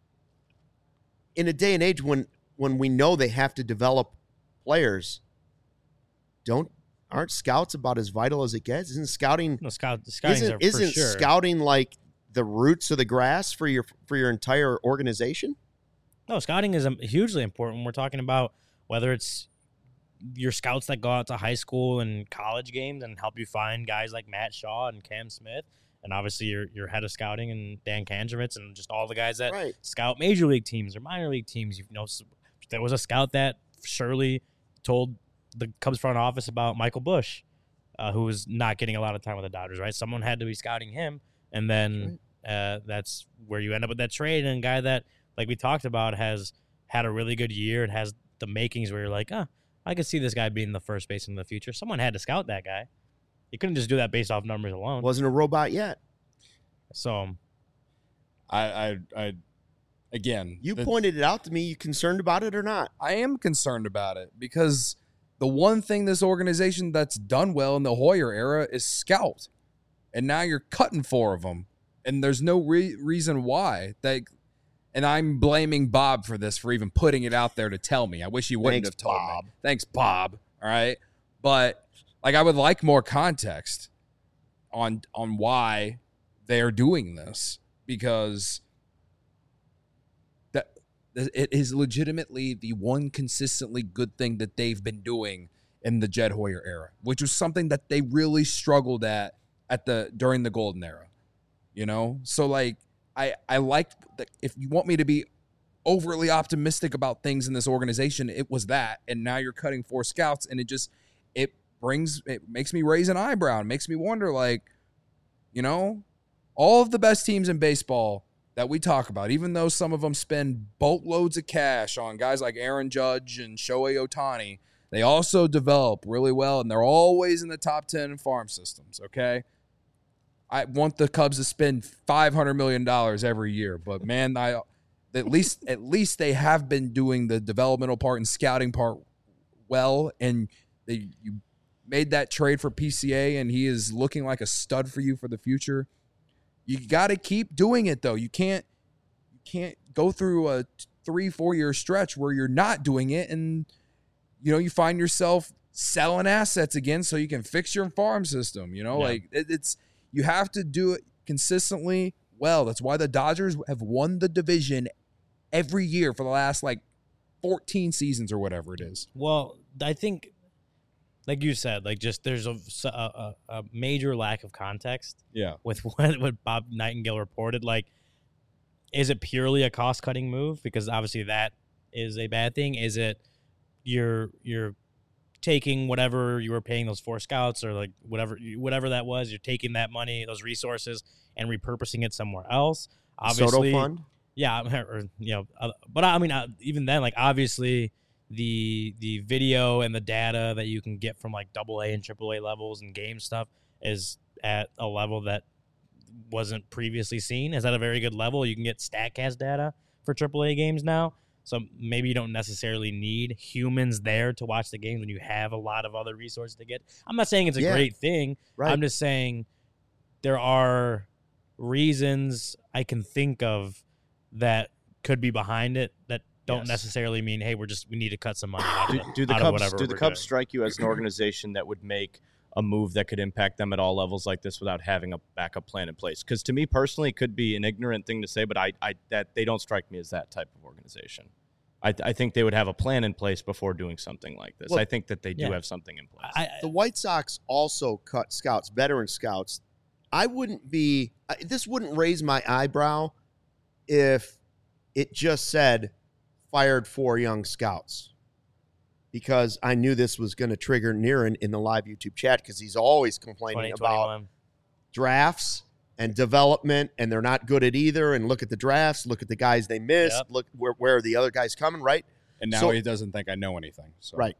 In a day and age when when we know they have to develop players, don't aren't scouts about as vital as it gets? Isn't scouting no scout? Scouting isn't are isn't for sure. scouting like the roots of the grass for your for your entire organization? No, scouting is um, hugely important. We're talking about whether it's your scouts that go out to high school and college games and help you find guys like Matt Shaw and Cam Smith, and obviously your your head of scouting and Dan Kanjovitz and just all the guys that Right. scout major league teams or minor league teams. You know, s- there was a scout that surely told the Cubs front office about Michael Bush, uh, who was not getting a lot of time with the Dodgers. Right, someone had to be scouting him, and then uh, that's where you end up with that trade and a guy that, like we talked about, has had a really good year and has the makings where you're like, ah, I could see this guy being the first baseman in the future. Someone had to scout that guy. You couldn't just do that based off numbers alone. Wasn't a robot yet. So I I I again. You the- pointed it out to me. You concerned about it or not? I am concerned about it because the one thing this organization that's done well in the Hoyer era is scout, and now you're cutting four of them, and there's no re- reason why. They, and I'm blaming Bob for this for even putting it out there to tell me. I wish he wouldn't Thanks, have told Bob. me. Thanks, Bob. All right, but like I would like more context on on why they're doing this because that it is legitimately the one consistently good thing that they've been doing in the Jed Hoyer era, which was something that they really struggled at at the during the golden era. You know, so like I I liked that. If you want me to be overly optimistic about things in this organization, it was that, and now you're cutting four scouts, and it just it brings it makes me raise an eyebrow. It makes me wonder, like, you know, all of the best teams in baseball that we talk about, even though some of them spend boatloads of cash on guys like Aaron Judge and Shohei Ohtani, they also develop really well, and they're always in the top ten in farm systems, okay? I want the Cubs to spend five hundred million dollars every year, but, man, I at least at least they have been doing the developmental part and scouting part well, and they you made that trade for P C A, and he is looking like a stud for you for the future. You got to keep doing it, though. You can't you can't go through a three, four year stretch where you're not doing it, and you know, you find yourself selling assets again so you can fix your farm system. You know, Yeah. like it, it's you have to do it consistently well. That's why the Dodgers have won the division every year for the last like fourteen seasons or whatever it is. Well, I think, like you said, like just there's a, a, a major lack of context Yeah. with what, what Bob Nightingale reported. Like, is it purely a cost-cutting move? Because obviously that is a bad thing. Is it you're you're taking whatever you were paying those four scouts or like whatever whatever that was, you're taking that money, those resources, and repurposing it somewhere else? Obviously, Soto Fund? yeah, or, you know, uh, but I mean, uh, even then, like obviously, the the video and the data that you can get from like double A and triple A levels and game stuff is at a level that wasn't previously seen. Is at a very good level. You can get StatCast data for triple A games now, so maybe you don't necessarily need humans there to watch the games when you have a lot of other resources to get. I'm not saying it's a Yeah. great thing. Right. I'm just saying there are reasons I can think of that could be behind it that don't Yes. necessarily mean, hey, we're just we need to cut some money out, Do, of, do the out of Cubs whatever do the we're Cubs doing. strike you as an organization that would make a move that could impact them at all levels like this without having a backup plan in place? Because to me personally, it could be an ignorant thing to say, but I, I that they don't strike me as that type of organization. I, I think they would have a plan in place before doing something like this. Well, I think that they do yeah. have something in place. I, The White Sox also cut scouts, veteran scouts. I wouldn't be I- this wouldn't raise my eyebrow if it just said fired four young scouts, because I knew this was going to trigger Niren in the live YouTube chat because he's always complaining about twenty twenty-one. drafts and development, and they're not good at either. And look at the drafts, look at the guys they missed, Yep. look where, where are the other guys coming, right? And now So- he doesn't think I know anything. So Right.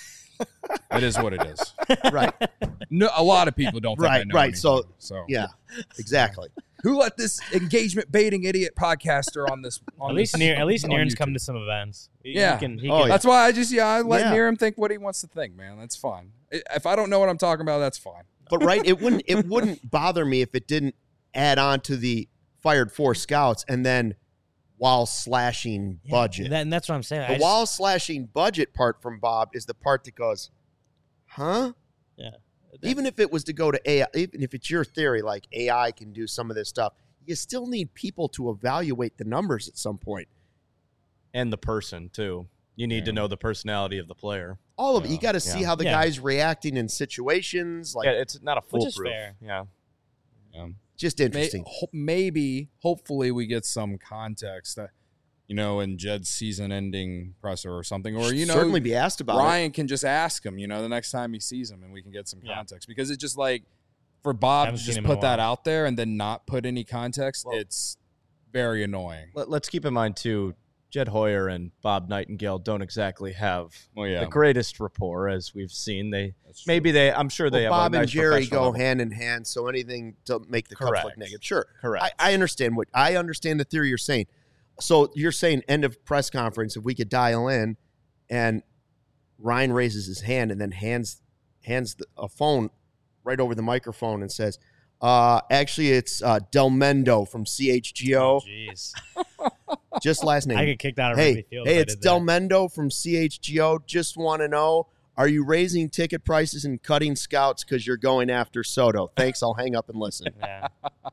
it is what it is. Right. No, a lot of people don't think I Right, know right. anything. So, so Yeah, exactly. who let this engagement baiting idiot podcaster on this? On At least this, near at least on Niren's YouTube? come to some events. He, Yeah. he can, he Oh, can, yeah. That's why I just yeah I let Yeah. Niren think what he wants to think, man. That's fine. I- If I don't know what I'm talking about, that's fine. But right, it wouldn't it wouldn't bother me if it didn't add on to the fired four scouts and then while slashing Yeah, budget. that- and that's what I'm saying. I the just- while slashing budget part from Bob is the part that goes, huh? yeah. Even if it was to go to A I, even if it's your theory, like A I can do some of this stuff, you still need people to evaluate the numbers at some point. and the person too. You need to Yeah. know the personality of the player. All of it. You Yeah, got to see yeah. how the Yeah. guy's reacting in situations. Like, yeah, it's not a Which is foolproof. fair. Yeah. Yeah. just May, interesting. ho- maybe, hopefully, we get some context that, you know, in Jed's season-ending presser or something, or you know, certainly be asked about it. Ryan can just ask him, you know, the next time he sees him, and we can get some Yeah. context because it's just like for Bob Haven't to seen just him in a put that while. out there and then not put any context. Well- it's very annoying. Let, let's keep in mind too, Jed Hoyer and Bob Nightingale don't exactly have Well, yeah, the greatest rapport, as we've seen. They that's true. maybe they. I'm sure they Well, have Bob a nice and Jerry professional go level. hand in hand, so anything to make the Cubs look Correct. negative. Sure. Correct. I, I understand what I understand the theory you're saying. So you're saying end of press conference, if we could dial in and Ryan raises his hand and then hands hands the, a phone right over the microphone and says, uh, actually it's uh, Del Mendo from C H G O. Oh, jeez. Just last name. I get kicked out of Hey, Wrigley Field. hey, if I it's did Del that. Mendo from C H G O. Just want to know, are you raising ticket prices and cutting scouts because you're going after Soto? Thanks. I'll hang up and listen. Yeah.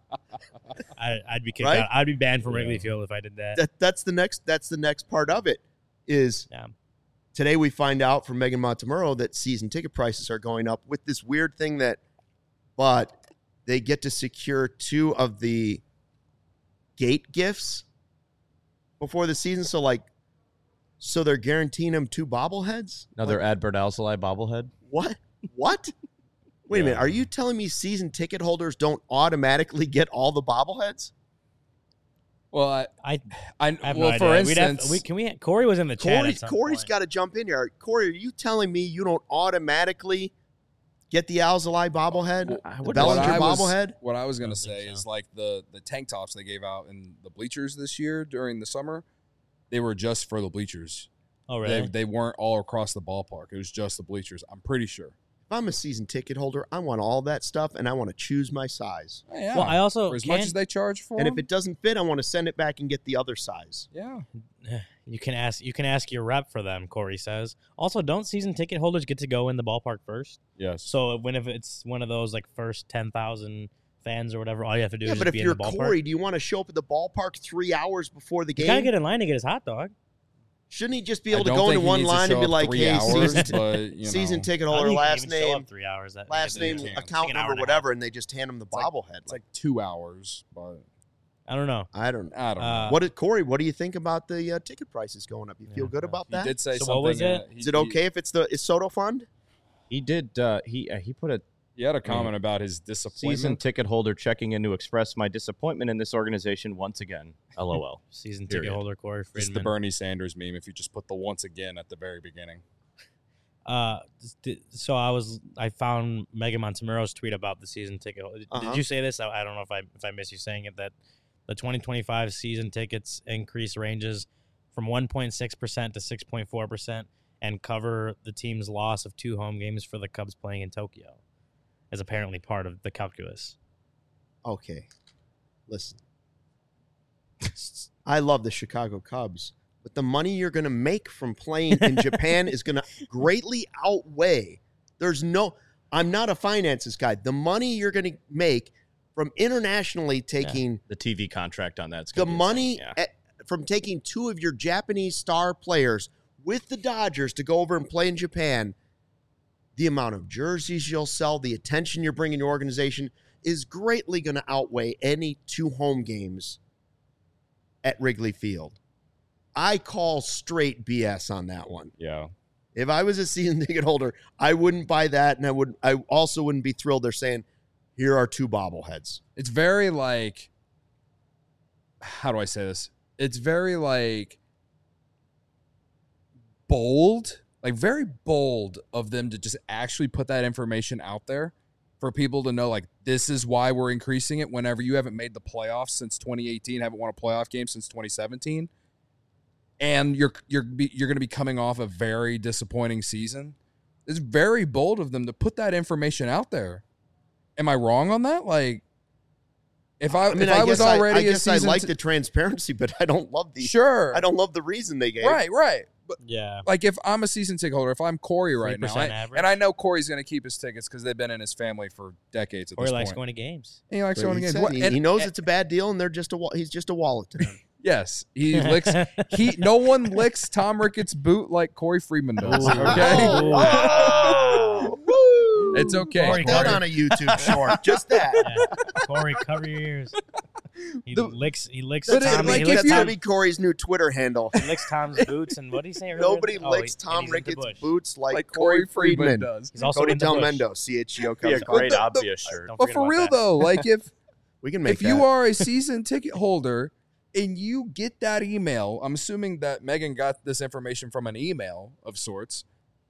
I, I'd be kicked Right? out. I'd be banned from Wrigley Yeah. Field if I did that. That, that's the next. That's the next part of it. Is Yeah. today we find out from Megan Montemurro that season ticket prices are going up with this weird thing that, but they get to secure two of the gate gifts before the season. So like, so they're guaranteeing them two bobbleheads. Another Like, Adbert Alzolay bobblehead. what? What? Wait a Yeah. minute. Are you telling me season ticket holders don't automatically get all the bobbleheads? Well, I, I, I, I have well, no for idea. We'd have- instance, we, can we? Corey was in the chat. Corey, at some Corey's point. got to jump in here. Corey, are you telling me you don't automatically get the Alzolay bobblehead? I The would- Bellinger what I was- bobblehead? What I was I gonna don't think say so. is like the the tank tops they gave out in the bleachers this year during the summer, they were just for the bleachers. Oh, really? They they weren't all across the ballpark. It was just the bleachers. I'm pretty sure. If I'm a season ticket holder, I want all that stuff, and I want to choose my size. Yeah. Well, I also for as much can't- as they charge for And if them, it doesn't fit, I want to send it back and get the other size. yeah. you can ask you can ask your rep for them, Corey says. Also, don't season ticket holders get to go in the ballpark first? Yes. So when if it's one of those like first ten thousand fans or whatever, all you have to do Yeah, is but just if be you're in the ballpark. Corey, do you want to show up at the ballpark three hours before the You game? gotta get in line to get his hot dog. Shouldn't he just be I able to don't go think into he one needs to line show and be up like, three hey, hours, season, but, you season know. ticket I holder, think you can last even show name, up three hours. That, last maybe name, you can. It's account like an hour number, and a half. whatever, and they just hand him the like- bobblehead. It's like two hours, but I don't know. I don't know. I don't know. Uh, What did Corey? What do you think about the uh, ticket prices going up? You feel Yeah, good no. about he that? did say So something. what was uh, it? he- Is it he- okay if it's the is Soto Fund? He did. Uh, he uh, he put a He had a comment about his disappointment. season ticket holder checking in to express my disappointment in this organization once again. LOL. Season ticket Period. holder Corey It's Friedman. the Bernie Sanders meme. If you just put the once again at the very beginning. Uh, st- so I was I found Megan Montemuro's tweet about the season ticket. Did, Uh-huh. did you say this? I, I don't know if I if I miss you saying it, that the twenty twenty-five season tickets increase ranges from one point six percent to six point four percent and cover the team's loss of two home games for the Cubs playing in Tokyo, is apparently part of the calculus. Okay, listen. I love the Chicago Cubs, but the money you're going to make from playing in Japan is going to greatly outweigh. There's no. I'm not a finances guy. The money you're going to make from internationally taking The T V contract on that's the gonna be money insane. Yeah. at, from taking two of your Japanese star players with the Dodgers to go over and play in Japan, the amount of jerseys you'll sell, the attention you're bringing your organization is greatly going to outweigh any two home games at Wrigley Field. I call straight B S on that one. Yeah. If I was a season ticket holder, I wouldn't buy that, and I would. I also wouldn't be thrilled they're saying, here are two bobbleheads. It's very like, how do I say this? It's very like bold, like very bold of them to just actually put that information out there for people to know, like, this is why we're increasing it whenever you haven't made the playoffs since twenty eighteen, haven't won a playoff game since twenty seventeen. And you're you're be, you're going to be coming off a very disappointing season. It's very bold of them to put that information out there. Am I wrong on that? Like, if I, I mean, if I, I was guess already I, I a guess I season like t- the transparency, but I don't love the. sure, I don't love the reason they gave. right, right. But Yeah. like, if I'm a season ticket holder, if I'm Corey right now, three percent I- average. and I know Corey's going to keep his tickets because they've been in his family for decades at Or this he likes point. going to games. And he likes But going he, to games. said What- he, and- he knows and- it's a bad deal, and they're just a wa- he's just a wallet to him. Yes, he licks. He no one licks Tom Ricketts' boot like Corey Friedman does. Ooh. Okay, Oh, woo. it's okay. Corey, Put that Corey. on a YouTube short. Just that. Yeah. Corey, cover your ears. He The- licks. He licks But it- Tom. like, he if licks That's you- gonna Tom. be Corey's new Twitter handle. He licks Tom's boots, and what did he say earlier? Nobody Oh, licks he- and Tom he's into Ricketts' Bush. boots like, like Corey Corey Friedman, Friedman. does. He's also Cody into Bush. Delmendo, C H G O Be a Cubs. great the- the- obvious shirt. Don't But forget for about real that. though, like if We can make if you that. are a season ticket holder and you get that email, I'm assuming that Megan got this information from an email of sorts,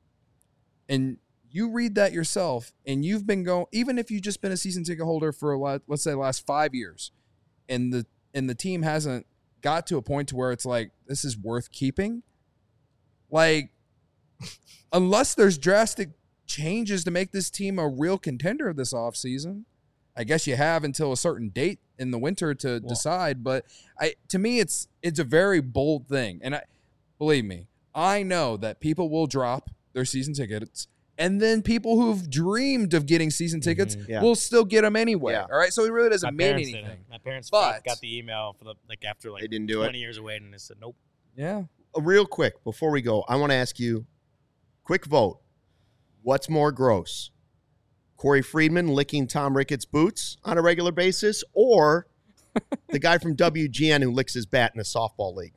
and you read that yourself, and you've been going, even if you've just been a season ticket holder for a lot, let's say the last five years, and the and the team hasn't got to a point to where it's like, this is worth keeping. Like, unless there's drastic changes to make this team a real contender this offseason, I guess you have until a certain date in the winter to Well- decide. But I, to me, it's it's a very bold thing, and I believe me, I know that people will drop their season tickets, and then people who've dreamed of getting season tickets Mhm. Yeah. will still get them anyway. Yeah. All right, so it really doesn't My mean parents did anything. it. My parents But- got the email for the like after like They didn't do it. twenty years away, and they said nope. Yeah, Uh, real quick before we go, I want to ask you, quick vote. What's more gross? Corey Friedman licking Tom Ricketts' boots on a regular basis, or the guy from W G N who licks his bat in a softball league?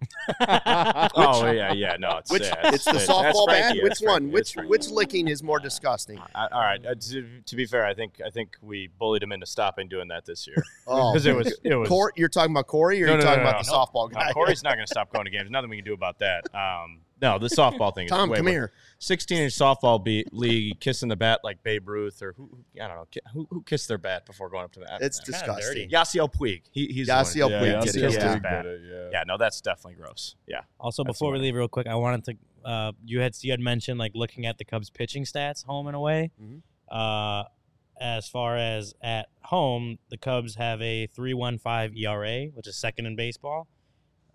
oh yeah, yeah. No, it's Which yeah, it's the that's softball bat. Frankie, Which that's one? Frankie, Which that's Frankie. which licking is more disgusting? I, all right. Uh, to, to be fair, I think I think we bullied him into stopping doing that this year Oh, because it was it was. Cor- you're talking about Corey, or No, you're no, talking no, about no, the no. softball No, guy? Corey's not going to stop going to games. Nothing we can do about that. Um, no, the softball thing. Is Tom, way come worse. here. sixteen-inch softball be- league, kissing the bat like Babe Ruth, or who? who- I don't know. ki- Who, who kissed their bat before going up to the bat? It's Kinda disgusting. dirty. Yasiel Puig. He, he's the one- Yasiel yeah, Puig yeah, did it, kissed yeah. his bat. yeah. Yeah, no, that's definitely gross. Yeah. Also, That's before we the one. leave, real quick, I wanted to. Uh, you had you had mentioned like looking at the Cubs pitching stats home and away. Mhm. Uh, as far as at home, the Cubs have a three point one five E R A, which is second in baseball.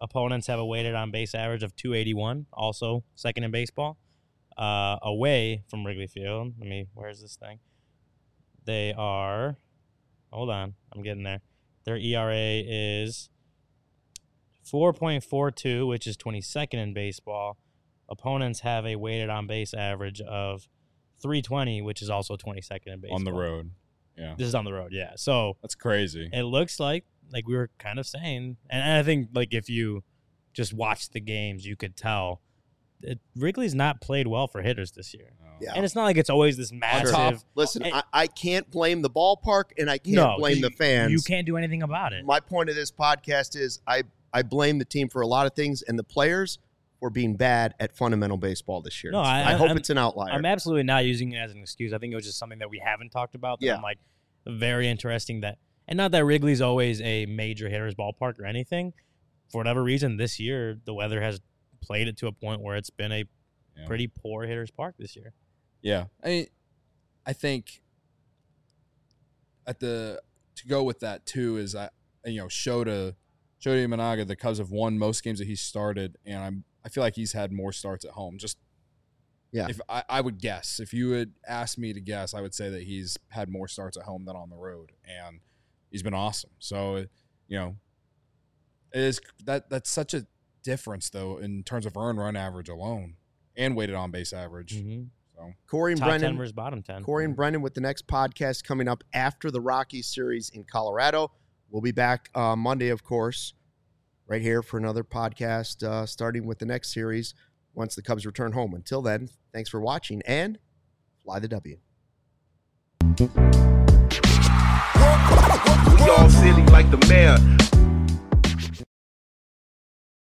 Opponents have a weighted on base average of two eighty-one, also second in baseball. Uh, away from Wrigley Field, let me, where's this thing? They are, hold on, I'm getting there. Their E R A is four point four two, which is twenty-second in baseball. Opponents have a weighted on base average of three twenty, which is also twenty-second in baseball. On the road. Yeah. This is on the road, yeah. So that's crazy. It looks like, like we were kind of saying, and I think like if you just watch the games, you could tell it, Wrigley's not played well for hitters this year. No. Yeah. And it's not like it's always this massive. Top, listen, and, I, I can't blame the ballpark, and I can't no, blame you, the fans. You can't do anything about it. My point of this podcast is I, I blame the team for a lot of things, and the players for being bad at fundamental baseball this year. No, I, I hope I'm, it's an outlier. I'm absolutely not using it as an excuse. I think it was just something that we haven't talked about. That Yeah. I'm like, very interesting that, and not that Wrigley's always a major hitter's ballpark or anything. For whatever reason, this year, the weather has played it to a point where it's been a Yeah. pretty poor hitter's park this year. Yeah. I mean, I think at the, to go with that too is, I, you know, Shota, Shota Imanaga, the Cubs have won most games that he started, and I'm, I feel like he's had more starts at home. Just, Yeah. If I, I would guess, if you would ask me to guess, I would say that he's had more starts at home than on the road, and he's been awesome. So, you know, it is that that's such a difference though in terms of earned run average alone and weighted on base average. Mm-hmm. So Corey and Top Brendan, ten versus bottom ten. Corey and Brendan with the next podcast coming up after the Rockies series in Colorado. We'll be back uh, Monday, of course, right here for another podcast, uh, starting with the next series once the Cubs return home. Until then, thanks for watching and fly the W. We all silly like the mayor.